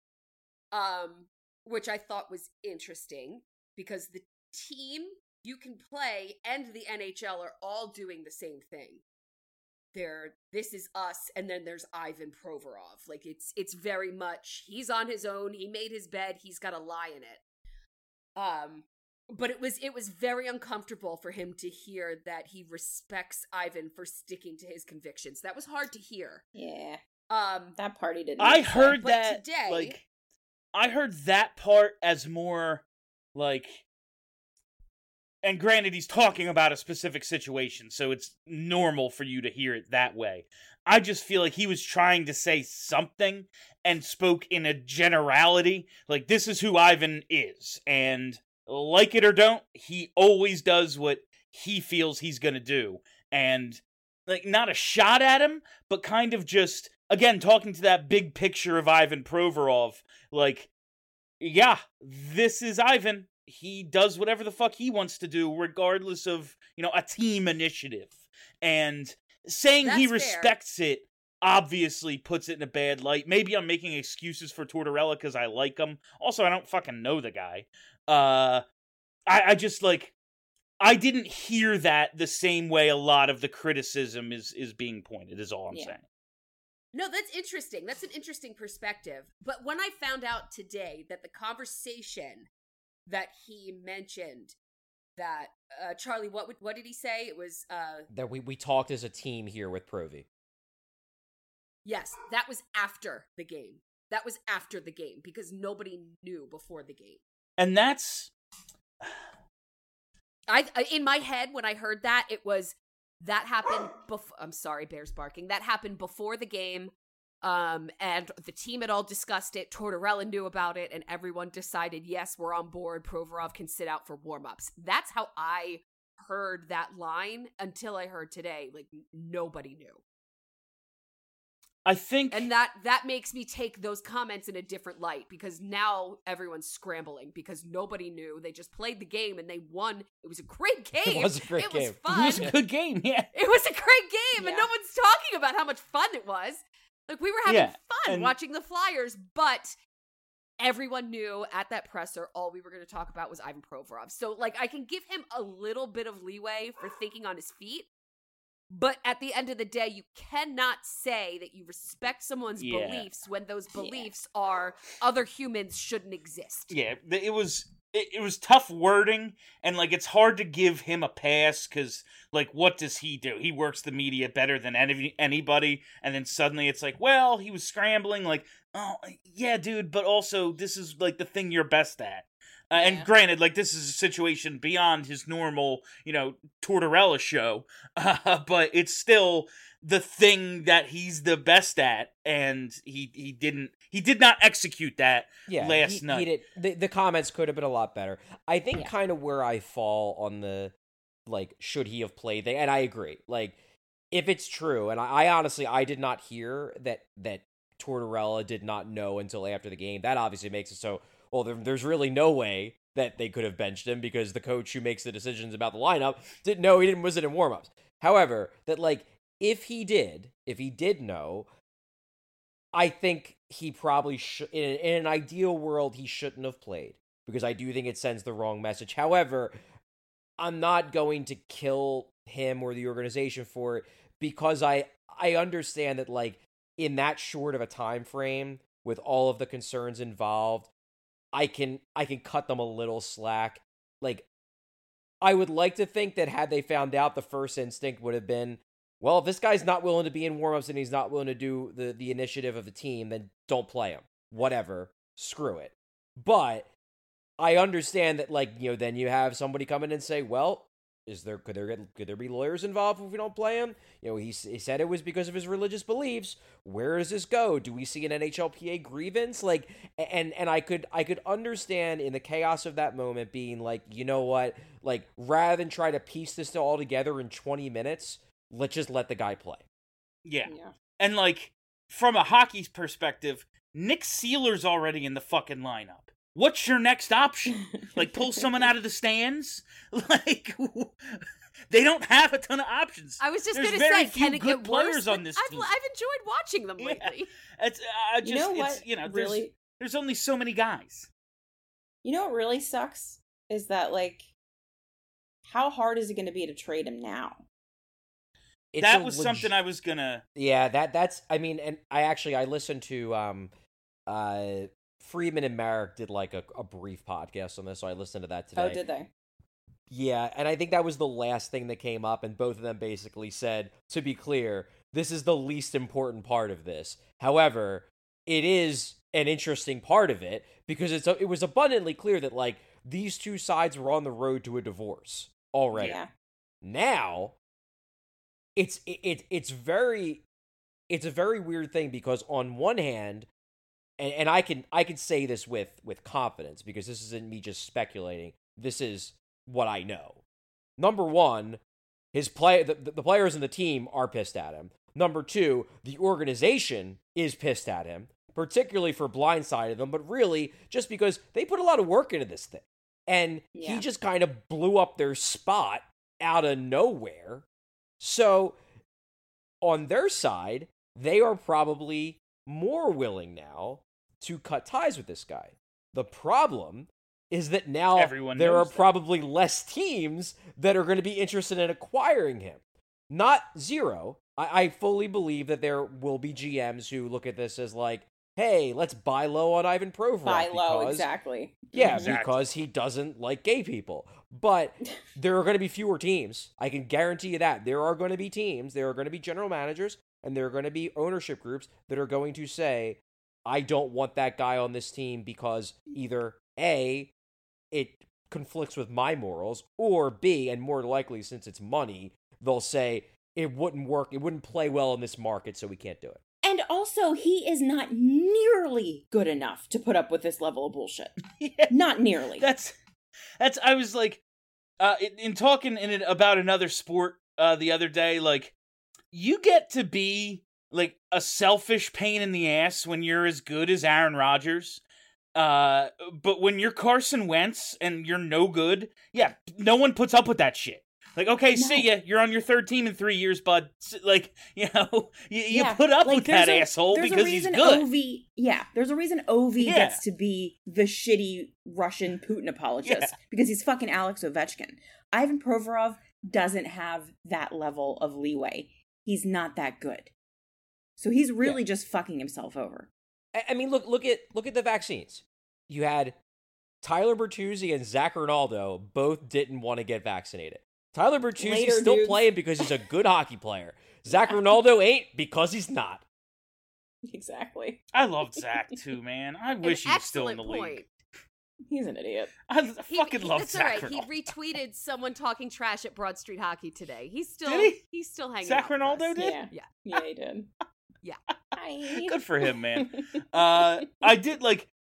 which I thought was interesting, because the team you can play and the NHL are all doing the same thing. This is us, and then there's Ivan Provorov. Like, it's very much, he's on his own, he made his bed, he's got to lie in it. But it was very uncomfortable for him to hear that he respects Ivan for sticking to his convictions. That was hard to hear. Yeah. That party didn't. I heard but that today, like, I heard that part as more like, and granted, he's talking about a specific situation, so it's normal for you to hear it that way. I just feel like he was trying to say something and spoke in a generality. Like, this is who Ivan is, and like it or don't, he always does what he feels he's gonna do. And, like, not a shot at him, but kind of just, again, talking to that big picture of Ivan Provorov. Like, yeah, this is Ivan. He does whatever the fuck he wants to do, regardless of, a team initiative. And saying he respects it obviously puts it in a bad light. Maybe I'm making excuses for Tortorella because I like him. Also, I don't fucking know the guy. I just, like, I didn't hear that the same way a lot of the criticism is being pointed, is all I'm saying. No, that's interesting. That's an interesting perspective. But when I found out today that the conversation that he mentioned, that Charlie, what did he say? It was that we talked as a team here with Provi. Yes, that was after the game. That was after the game, because nobody knew before the game. And that's, I in my head when I heard that, it was that happened before. I'm sorry, bears barking. That happened before the game. And the team had all discussed it. Tortorella knew about it, and everyone decided, yes, we're on board. Provorov can sit out for warm-ups. That's how I heard that line until I heard today. Like, nobody knew. I think, And that makes me take those comments in a different light, because now everyone's scrambling because nobody knew. They just played the game and they won. It was a great game. It was a great game. It was fun. it was a good game. Yeah, It was a great game, and Yeah. no one's talking about how much fun it was. Like, we were having Yeah, fun and- watching the Flyers, but everyone knew at that presser all we were going to talk about was Ivan Provorov. So, like, I can give him a little bit of leeway for thinking on his feet, but at the end of the day, you cannot say that you respect someone's Yeah. beliefs when those beliefs are other humans shouldn't exist. yeah. It was tough wording, and like it's hard to give him a pass because like what does he do? He works the media better than anybody, and then suddenly it's like, well, he was scrambling. Like, oh yeah, dude, but also this is like the thing you're best at. And granted, like this is a situation beyond his normal, Tortorella show, but it's still the thing that he's the best at, and he did not execute that last night. The comments could have been a lot better. I think kind of where I fall on the, like, should he have played thing, and I agree. Like, if it's true, and I honestly, I did not hear that Tortorella did not know until after the game. That obviously makes it so, well, there's really no way that they could have benched him because the coach who makes the decisions about the lineup didn't know he wasn't in warmups. However, that, like, if he did know, I think he probably should. In an ideal world, he shouldn't have played because I do think it sends the wrong message. However, I'm not going to kill him or the organization for it because I understand that, like, in that short of a time frame with all of the concerns involved, I can cut them a little slack. Like, I would like to think that had they found out, the first instinct would have been, well, if this guy's not willing to be in warmups and he's not willing to do the initiative of the team, then don't play him. Whatever. Screw it. But I understand that, like, then you have somebody come in and say, well, could there be lawyers involved if we don't play him? He said it was because of his religious beliefs. Where does this go? Do we see an NHLPA grievance? Like, and I could understand in the chaos of that moment being like, you know what? Like, rather than try to piece this all together in 20 minutes, let's just let the guy play. Yeah. And like, from a hockey's perspective, Nick Seeler's already in the fucking lineup. What's your next option? Like, pull someone out of the stands? Like, they don't have a ton of options. I was just There's going to very say, few can it good get worse? players on But this team. I've enjoyed watching them lately. It's You know what really? there's only so many guys. You know what really sucks is that, like, how hard is it going to be to trade him now? That was something I was gonna. Yeah, that's. I mean, and I listened to Friedman and Marek did like a brief podcast on this, so I listened to that today. Oh, did they? Yeah, and I think that was the last thing that came up, and both of them basically said, to be clear, this is the least important part of this. However, it is an interesting part of it because it was abundantly clear that, like, these two sides were on the road to a divorce already. Yeah. Now, it's a very weird thing because on one hand, and I can say this with confidence because this isn't me just speculating. This is what I know. Number one, the players in the team are pissed at him. Number two, the organization is pissed at him, particularly for blindsiding them, but really just because they put a lot of work into this thing. And he just kind of blew up their spot out of nowhere. So, on their side, they are probably more willing now to cut ties with this guy. The problem is that now there are probably less teams that are going to be interested in acquiring him. Not zero. I fully believe that there will be GMs who look at this as like, hey, let's buy low on Ivan Provorov. Buy low, exactly. Yeah, because he doesn't like gay people. But there are going to be fewer teams. I can guarantee you that. There are going to be teams, there are going to be general managers, and there are going to be ownership groups that are going to say, I don't want that guy on this team because either A, it conflicts with my morals, or B, and more likely since it's money, they'll say it wouldn't work, it wouldn't play well in this market, so we can't do it. And also, he is not nearly good enough to put up with this level of bullshit. Yeah. Not nearly. That's. I was like, in talking about another sport the other day, like, you get to be like a selfish pain in the ass when you're as good as Aaron Rodgers. But when you're Carson Wentz and you're no good, yeah, no one puts up with that shit. Like, okay, see ya. You're on your third team in 3 years, bud. Like, you put up with that asshole because he's good. There's a reason Ovi gets to be the shitty Russian Putin apologist because he's fucking Alex Ovechkin. Ivan Provorov doesn't have that level of leeway. He's not that good. So he's really just fucking himself over. I mean, look at the vaccines. You had Tyler Bertuzzi and Zach Ronaldo both didn't want to get vaccinated. Tyler Bertuzzi's still playing because he's a good hockey player. Zach Ronaldo ain't because he's not. Exactly. I loved Zach too, man. I wish he was still in the league. He's an idiot. I fucking love that's Zach all right. Ronaldo. He retweeted someone talking trash at Broad Street Hockey today. He's still he's still hanging Zach out with Ronaldo us. did? Yeah, he did. Yeah. Hi. Good for him, man. I did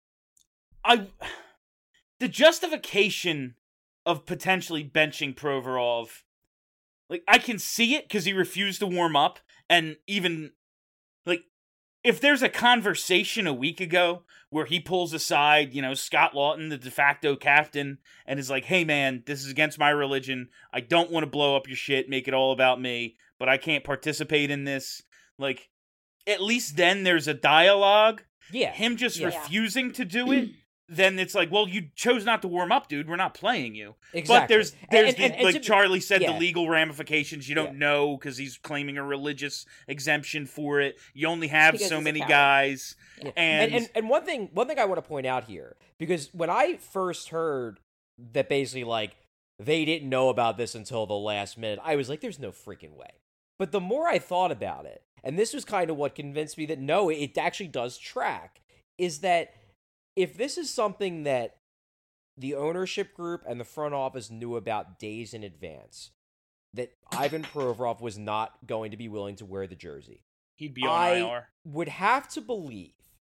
the justification of potentially benching Provorov, like, I can see it because he refused to warm up, and even, like, if there's a conversation a week ago where he pulls aside, Scott Lawton, the de facto captain, and is like, hey man, this is against my religion, I don't want to blow up your shit, make it all about me, but I can't participate in this, like, at least then there's a dialogue. Yeah. Him just refusing to do it, then it's like, well, you chose not to warm up, dude. We're not playing you. Exactly. But there's And like Charlie said, yeah. the legal ramifications you don't know because he's claiming a religious exemption for it. You only have Because so he's a many coward. guys. Yeah. And one thing I want to point out here, because when I first heard that basically, like, they didn't know about this until the last minute, I was like, there's no freaking way. But the more I thought about it, and this was kind of what convinced me that no, it actually does track, is that if this is something that the ownership group and the front office knew about days in advance, that Ivan Provorov was not going to be willing to wear the jersey, he'd be on IR. I would have to believe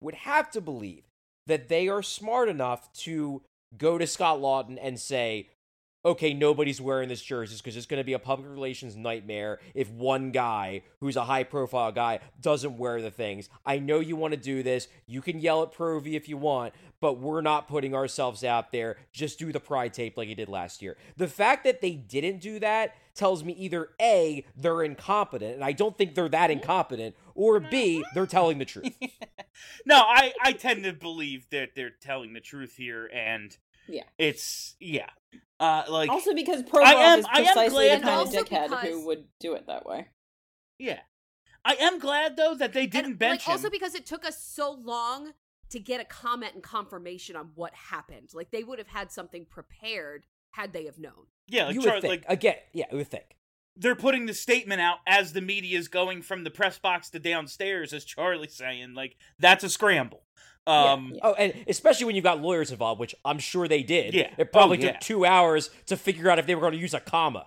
that they are smart enough to go to Scott Lawton and say, okay, nobody's wearing this jersey because it's going to be a public relations nightmare if one guy who's a high-profile guy doesn't wear the things. I know you want to do this. You can yell at Pro V if you want, but we're not putting ourselves out there. Just do the pride tape like you did last year. The fact that they didn't do that tells me either A, they're incompetent, and I don't think they're that incompetent, or B, they're telling the truth. No, I tend to believe that they're telling the truth here, and it's also because Provorov is precisely the kind of dickhead because who would do it that way. Yeah. I am glad, though, that they didn't bench him. Also because it took us so long to get a comment and confirmation on what happened. Like, they would have had something prepared had they have known. Yeah, like, You would think. Again, yeah, you would think. They're putting the statement out as the media is going from the press box to downstairs, as Charlie's saying, like, that's a scramble. Oh, and especially when you've got lawyers involved, which I'm sure they did. Yeah. It probably took 2 hours to figure out if they were going to use a comma.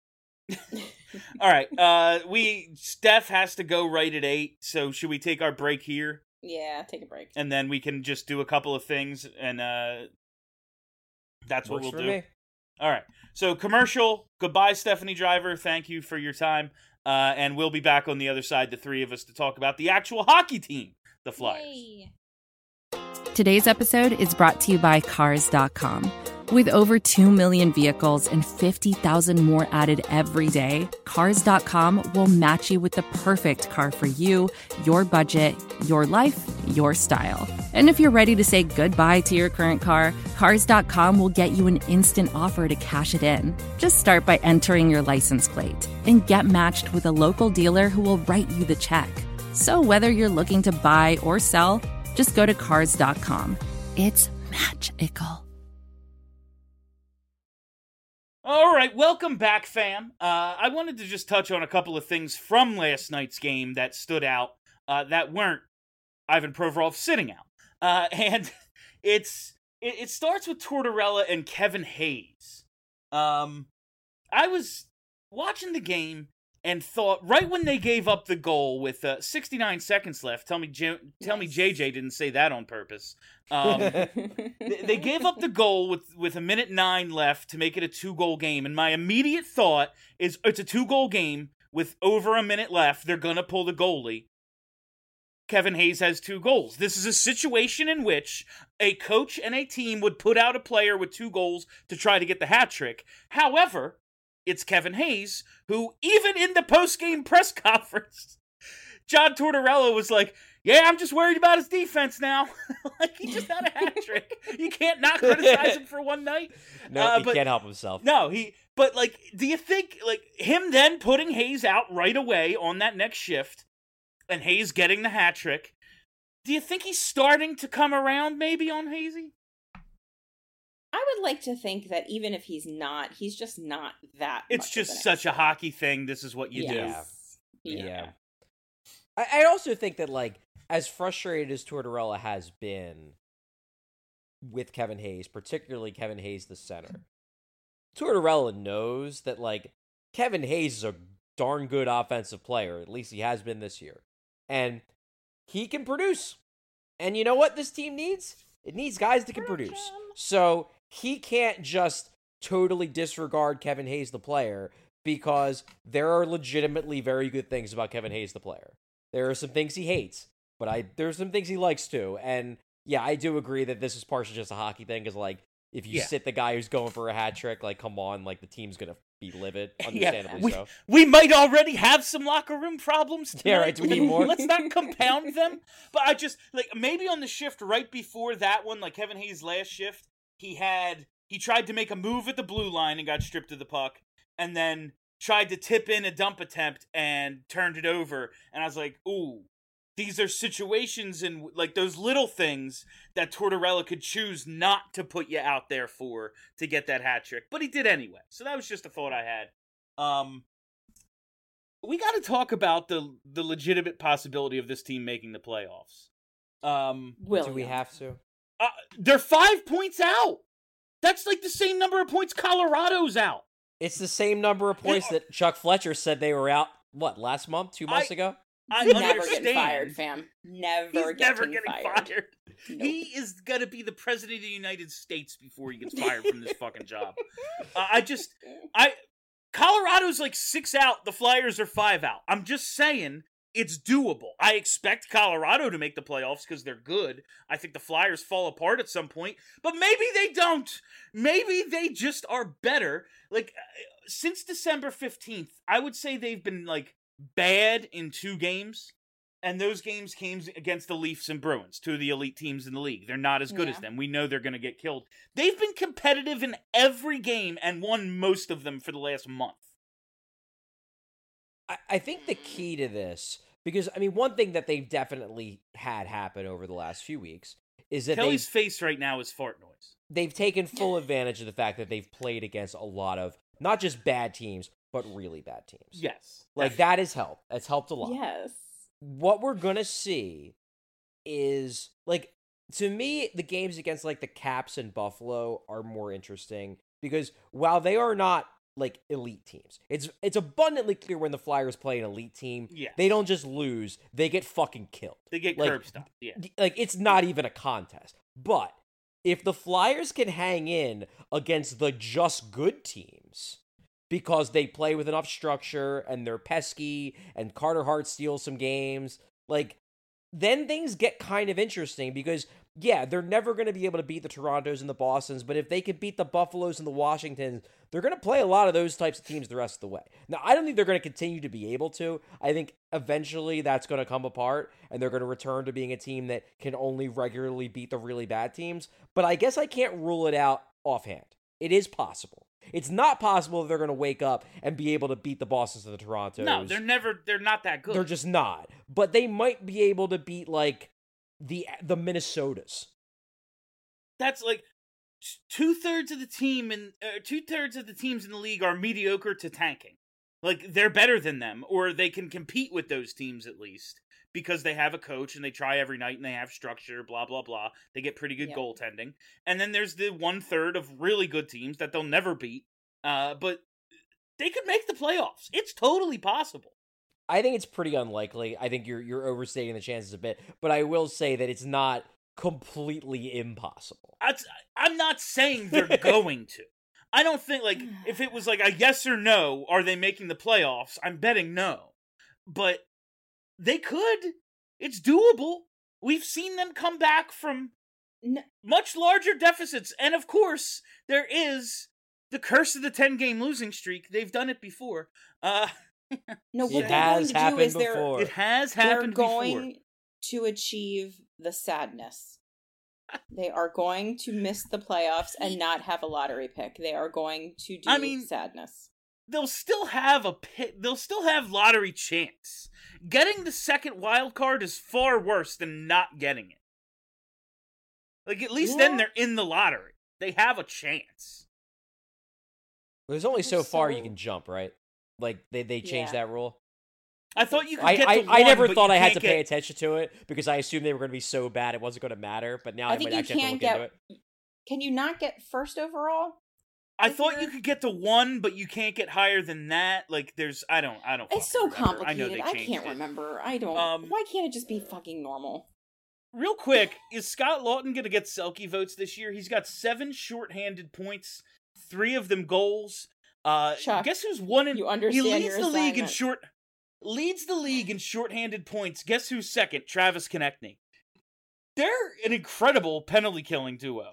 All right. Steph has to go right at 8, so should we take our break here? Yeah, take a break. And then we can just do a couple of things, and that's what Works we'll for do. me. All right. So, commercial. Goodbye, Stephanie Driver. Thank you for your time. And we'll be back on the other side, the three of us, to talk about the actual hockey team, the Flyers. Yay. Today's episode is brought to you by Cars.com. With over 2 million vehicles and 50,000 more added every day, Cars.com will match you with the perfect car for you, your budget, your life, your style. And if you're ready to say goodbye to your current car, Cars.com will get you an instant offer to cash it in. Just start by entering your license plate and get matched with a local dealer who will write you the check. So whether you're looking to buy or sell, just go to Cars.com. It's magical. All right, welcome back, fam. I wanted to just touch on a couple of things from last night's game that stood out that weren't Ivan Provorov sitting out. And it starts with Tortorella and Kevin Hayes. I was watching the game and thought, right when they gave up the goal with 69 seconds left, tell me JJ didn't say that on purpose. They gave up the goal with 1:09 left to make it a 2-goal game, and my immediate thought is it's a 2-goal game with over a minute left. They're gonna pull the goalie. Kevin Hayes has 2 goals. This is a situation in which a coach and a team would put out a player with 2 goals to try to get the hat trick. However, it's Kevin Hayes who, even in the post-game press conference, John Tortorella was like, yeah, I'm just worried about his defense now. Like, he just had a hat trick. You can't not criticize him for one night. No, he can't help himself. No, but, like, do you think, like, him then putting Hayes out right away on that next shift and Hayes getting the hat trick, do you think he's starting to come around maybe on Hazy? I would like to think that even if he's not, he's just not that It's much just of an such a expert. hockey thing. This is what you do. Yeah. I also think that, like, as frustrated as Tortorella has been with Kevin Hayes, particularly Kevin Hayes the center, Tortorella knows that, like, Kevin Hayes is a darn good offensive player. At least he has been this year. And he can produce. And you know what this team needs? It needs guys that can produce. So he can't just totally disregard Kevin Hayes the player, because there are legitimately very good things about Kevin Hayes the player. There are some things he hates, but there's some things he likes too. And yeah, I do agree that this is partially just a hockey thing, because, like, if you sit the guy who's going for a hat trick, like, come on, like, the team's gonna be livid, understandably so. We might already have some locker room problems tonight. Yeah, right, do we need more? Let's not compound them. But I just, like, maybe on the shift right before that one, like Kevin Hayes' last shift, he tried to make a move at the blue line and got stripped of the puck, and then tried to tip in a dump attempt and turned it over. And I was like, ooh, these are situations and, like, those little things that Tortorella could choose not to put you out there for to get that hat trick. But he did anyway. So that was just a thought I had. We got to talk about the legitimate possibility of this team making the playoffs. Do we have to? They're 5 points out. That's like the same number of points Colorado's out. It's the same number of points that Chuck Fletcher said they were out, what, last month? 2 months ago? I Never understand. getting fired, fam. Never getting fired. Nope. He is gonna be the president of the United States before he gets fired from this fucking job. Colorado's like 6 out. The Flyers are 5 out. I'm just saying it's doable. I expect Colorado to make the playoffs because they're good. I think the Flyers fall apart at some point, but maybe they don't. Maybe they just are better. Like, since December 15th, I would say they've been, like, bad in 2 games, and those games came against the Leafs and Bruins, 2 of the elite teams in the league. They're not as good as them. We know they're going to get killed. They've been competitive in every game and won most of them for the last month. I think the key to this, because, I mean, one thing that they've definitely had happen over the last few weeks is that Kelly's face right now is fart noise. They've taken full advantage of the fact that they've played against a lot of, not just bad teams, but really bad teams. Yes. Like, that has helped. It's helped a lot. Yes. What we're going to see is, like, to me, the games against, like, the Caps and Buffalo are more interesting, because while they are not, like, elite teams, it's abundantly clear when the Flyers play an elite team, they don't just lose, they get fucking killed. They get curb stomped, yeah. Like, it's not even a contest. But if the Flyers can hang in against the just good teams, because they play with enough structure and they're pesky and Carter Hart steals some games, like, then things get kind of interesting, because yeah, they're never going to be able to beat the Torontos and the Bostons, but if they can beat the Buffaloes and the Washingtons, they're going to play a lot of those types of teams the rest of the way. Now, I don't think they're going to continue to be able to. I think eventually that's going to come apart, and they're going to return to being a team that can only regularly beat the really bad teams, but I guess I can't rule it out offhand. It is possible. It's not possible that they're going to wake up and be able to beat the Bostons and the Torontos. No, they're not that good. They're just not. But they might be able to beat, like, the Minnesotas. That's like 2/3 of the team and 2/3 of the teams in the league are mediocre to tanking. Like, they're better than them, or they can compete with those teams at least, because they have a coach and they try every night and they have structure, blah, blah, blah. They get pretty good goaltending. And then there's the 1/3 of really good teams that they'll never beat. But they could make the playoffs. It's totally possible. I think it's pretty unlikely. I think you're overstating the chances a bit, but I will say that it's not completely impossible. I'm not saying they're going to. I don't think, like, if it was like a yes or no, are they making the playoffs? I'm betting no. But they could. It's doable. We've seen them come back from much larger deficits. And of course, there is the curse of the 10-game losing streak. They've done it before. No, what It they're has going to do is happened before. It has they're happened going to achieve the sadness. They are going to miss the playoffs and not have a lottery pick. They are going to do sadness. They'll still have they'll still have lottery chance. Getting the second wild card is far worse than not getting it. Like, at least then they're in the lottery. They have a chance. There's only so far you can jump, right? Like, they changed that rule. I thought you could get to one, I never but thought you I had can't to pay attention to it because I assumed they were going to be so bad it wasn't going to matter, but now I might actually have to look into it. Can you not get first overall? I thought you could get to 1, but you can't get higher than that. Like, there's, I don't. It's so remember. complicated. I can't remember. I don't. Why can't it just be fucking normal? Real quick, is Scott Lawton going to get Selke votes this year? He's got 7 shorthanded points, 3 of them goals. Chuck, guess who's won in? You understand he leads your the league in assignment. leads the league in shorthanded points. Guess who's second? Travis Konechny. They're an incredible penalty killing duo.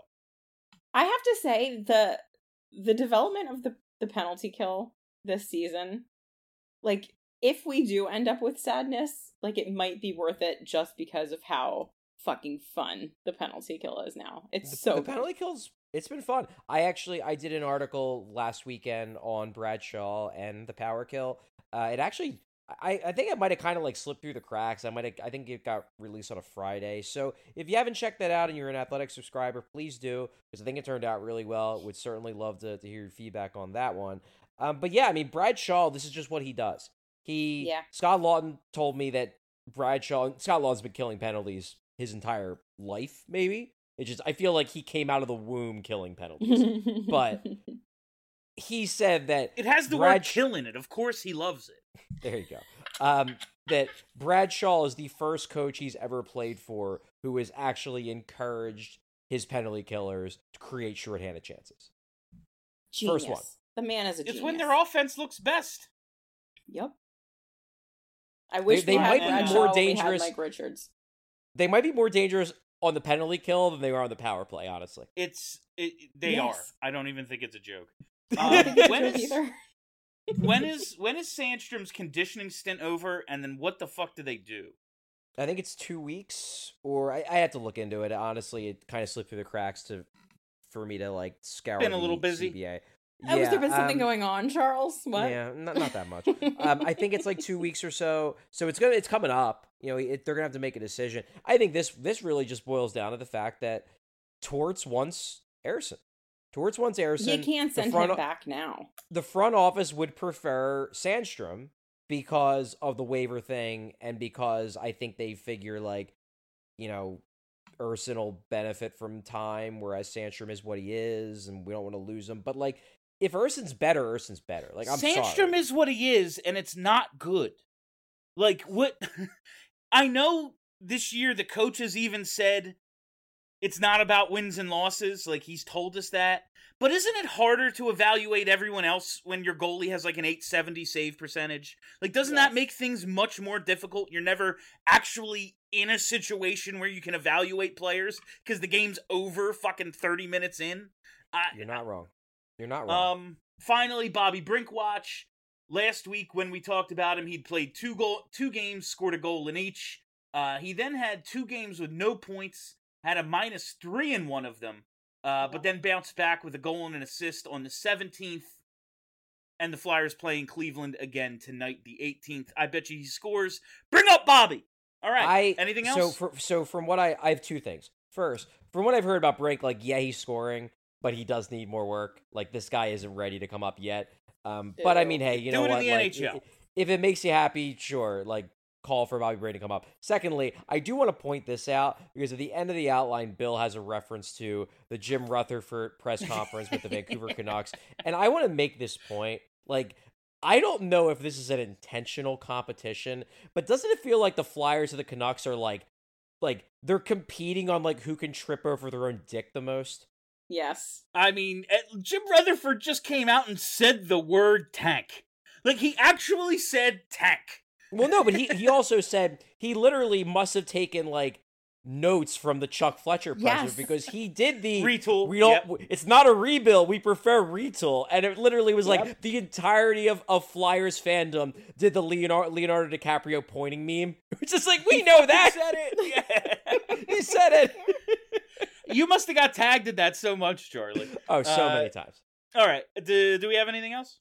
I have to say the development of the penalty kill this season, like, if we do end up with sadness, like, it might be worth it just because of how fucking fun the penalty kill is now. It's the penalty kills. It's been fun. I did an article last weekend on Bradshaw and the power kill. It actually, I think it might have kind of like slipped through the cracks. I think it got released on a Friday. So if you haven't checked that out and you're an Athletic subscriber, please do, because I think it turned out really well. Would certainly love to hear your feedback on that one. But yeah, I mean, Bradshaw, this is just what he does. Scott Lawton told me that Scott Lawton's been killing penalties his entire life, maybe. It's just, I feel like he came out of the womb killing penalties. But he said that it has the word kill in it. Of course he loves it. There you go. That Bradshaw is the first coach he's ever played for who has actually encouraged his penalty killers to create shorthanded chances. Genius. First one. The man is a genius. It's when their offense looks best. Yep. I wish they might be more dangerous. Mike Richards. They might be more dangerous on the penalty kill than they are on the power play, honestly. They are. I don't even think it's a joke. When is Sandstrom's conditioning stint over, and then what the fuck do they do? I think it's 2 weeks, or I had to look into it. Honestly, it kind of slipped through the cracks for me to like scour. Been a little busy. CBA. Has there been something going on, Charles? What? Yeah, not that much. I think it's like 2 weeks or so. So it's coming up. You know, they're gonna have to make a decision. I think this really just boils down to the fact that Torts wants Ersson. You can't send him back now. The front office would prefer Sandstrom because of the waiver thing, and because I think they figure like, you know, Ersson will benefit from time, whereas Sandstrom is what he is, and we don't want to lose him. But like, if Ersson's better, Ersson's better. Like, I'm sorry. Sandstrom is what he is, and it's not good. Like, what? I know this year the coaches even said it's not about wins and losses. Like, he's told us that. But isn't it harder to evaluate everyone else when your goalie has like an .870 save percentage? Like, doesn't that make things much more difficult? You're never actually in a situation where you can evaluate players because the game's over fucking 30 minutes in. You're not wrong. Finally, Bobby Brinkwatch. Last week when we talked about him, he'd played two games, scored a goal in each. He then had 2 games with no points, had a -3 in one of them, but then bounced back with a goal and an assist on the 17th. And the Flyers playing Cleveland again tonight, the 18th. I bet you he scores. Bring up Bobby! All right, anything else? So from what I have 2 things. First, from what I've heard about Brink, like, yeah, he's scoring, but he does need more work. Like, this guy isn't ready to come up yet. But I mean, hey, you know what? Do it in the NHL. If it makes you happy, sure. Like, call for Bobby Brady to come up. Secondly, I do want to point this out because at the end of the outline, Bill has a reference to the Jim Rutherford press conference with the Vancouver Canucks. And I want to make this point. Like, I don't know if this is an intentional competition, but doesn't it feel like the Flyers and the Canucks are like they're competing on like who can trip over their own dick the most? Yes. I mean, Jim Rutherford just came out and said the word tank. Like, he actually said tank. Well, no, but he also said he literally must have taken like notes from the Chuck Fletcher pressure Yes. because he did the Retool, We don't. yep. It's not a rebuild. We prefer retool, and it literally was Yep. like the entirety of Flyers fandom did the Leonardo DiCaprio pointing meme, which is like we know that. said it. Yeah. He said it. You must have got tagged at that so much, Charlie. Oh, so many times. All right. Do we have anything else?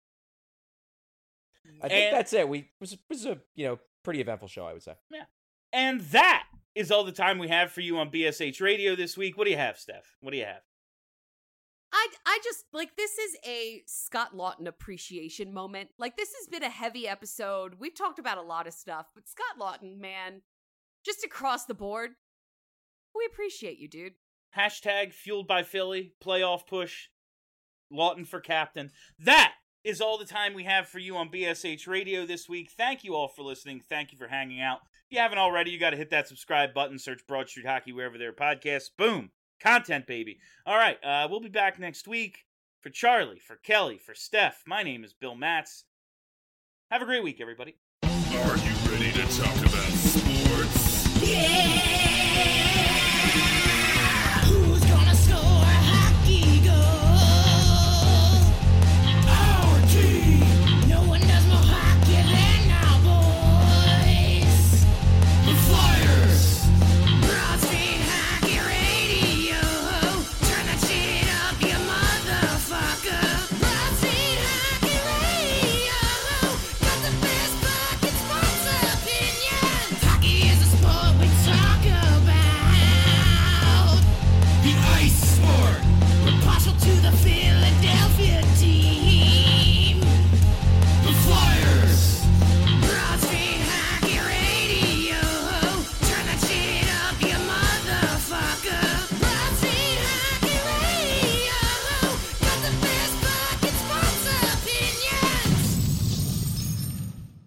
I think And- that's it. It was a pretty eventful show, I would say. And that is all the time we have for you on BSH Radio this week. What do you have, Steph? What do you have? I just like this is a Scott Lawton appreciation moment. Like this has been a heavy episode. We've talked about a lot of stuff, but Scott Lawton, man, just across the board, we appreciate you, dude. Hashtag fueled by Philly, playoff push, Lawton for captain. That is all the time we have for you on BSH Radio this week. Thank you all for listening. Thank you for hanging out. If you haven't already, you got to hit that subscribe button, search Broad Street Hockey wherever there are podcasts. Boom. Content, baby. All right, we'll be back next week. For Charlie, for Kelly, for Steph, my name is Bill Matz. Have a great week, everybody. Are you ready to talk about sports? Who's gonna score hockey goals? Our team. No one does more hockey than our boys. The Flyers. Broad Street Hockey Radio. Turn that shit up, you motherfucker. Broad Street Hockey Radio. Got the best fucking sports opinions. Hockey is a sport we talk about. The ice sport. We're partial to the Philadelphia team. The Flyers. Broad Street Hockey Radio. Turn that shit up, you motherfucker. Broad Street Hockey Radio. Got the best fucking sports opinions.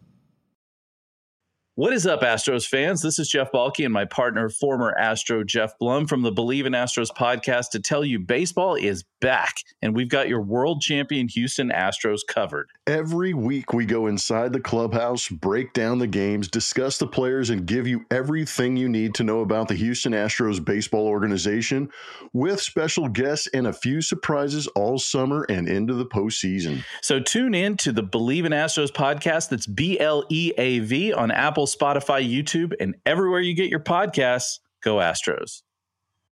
What is up, Astros fans? This is Jeff Balke and my partner, former Astro Jeff Blum from the Believe in Astros podcast to tell you baseball is back, and we've got your world champion Houston Astros covered. Every week we go inside the clubhouse, break down the games, discuss the players, and give you everything you need to know about the Houston Astros baseball organization with special guests and a few surprises all summer and into the postseason. So tune in to the Believe in Astros podcast. That's BLEAV on Apple, Spotify, YouTube, and everywhere you get your podcasts. Go Astros.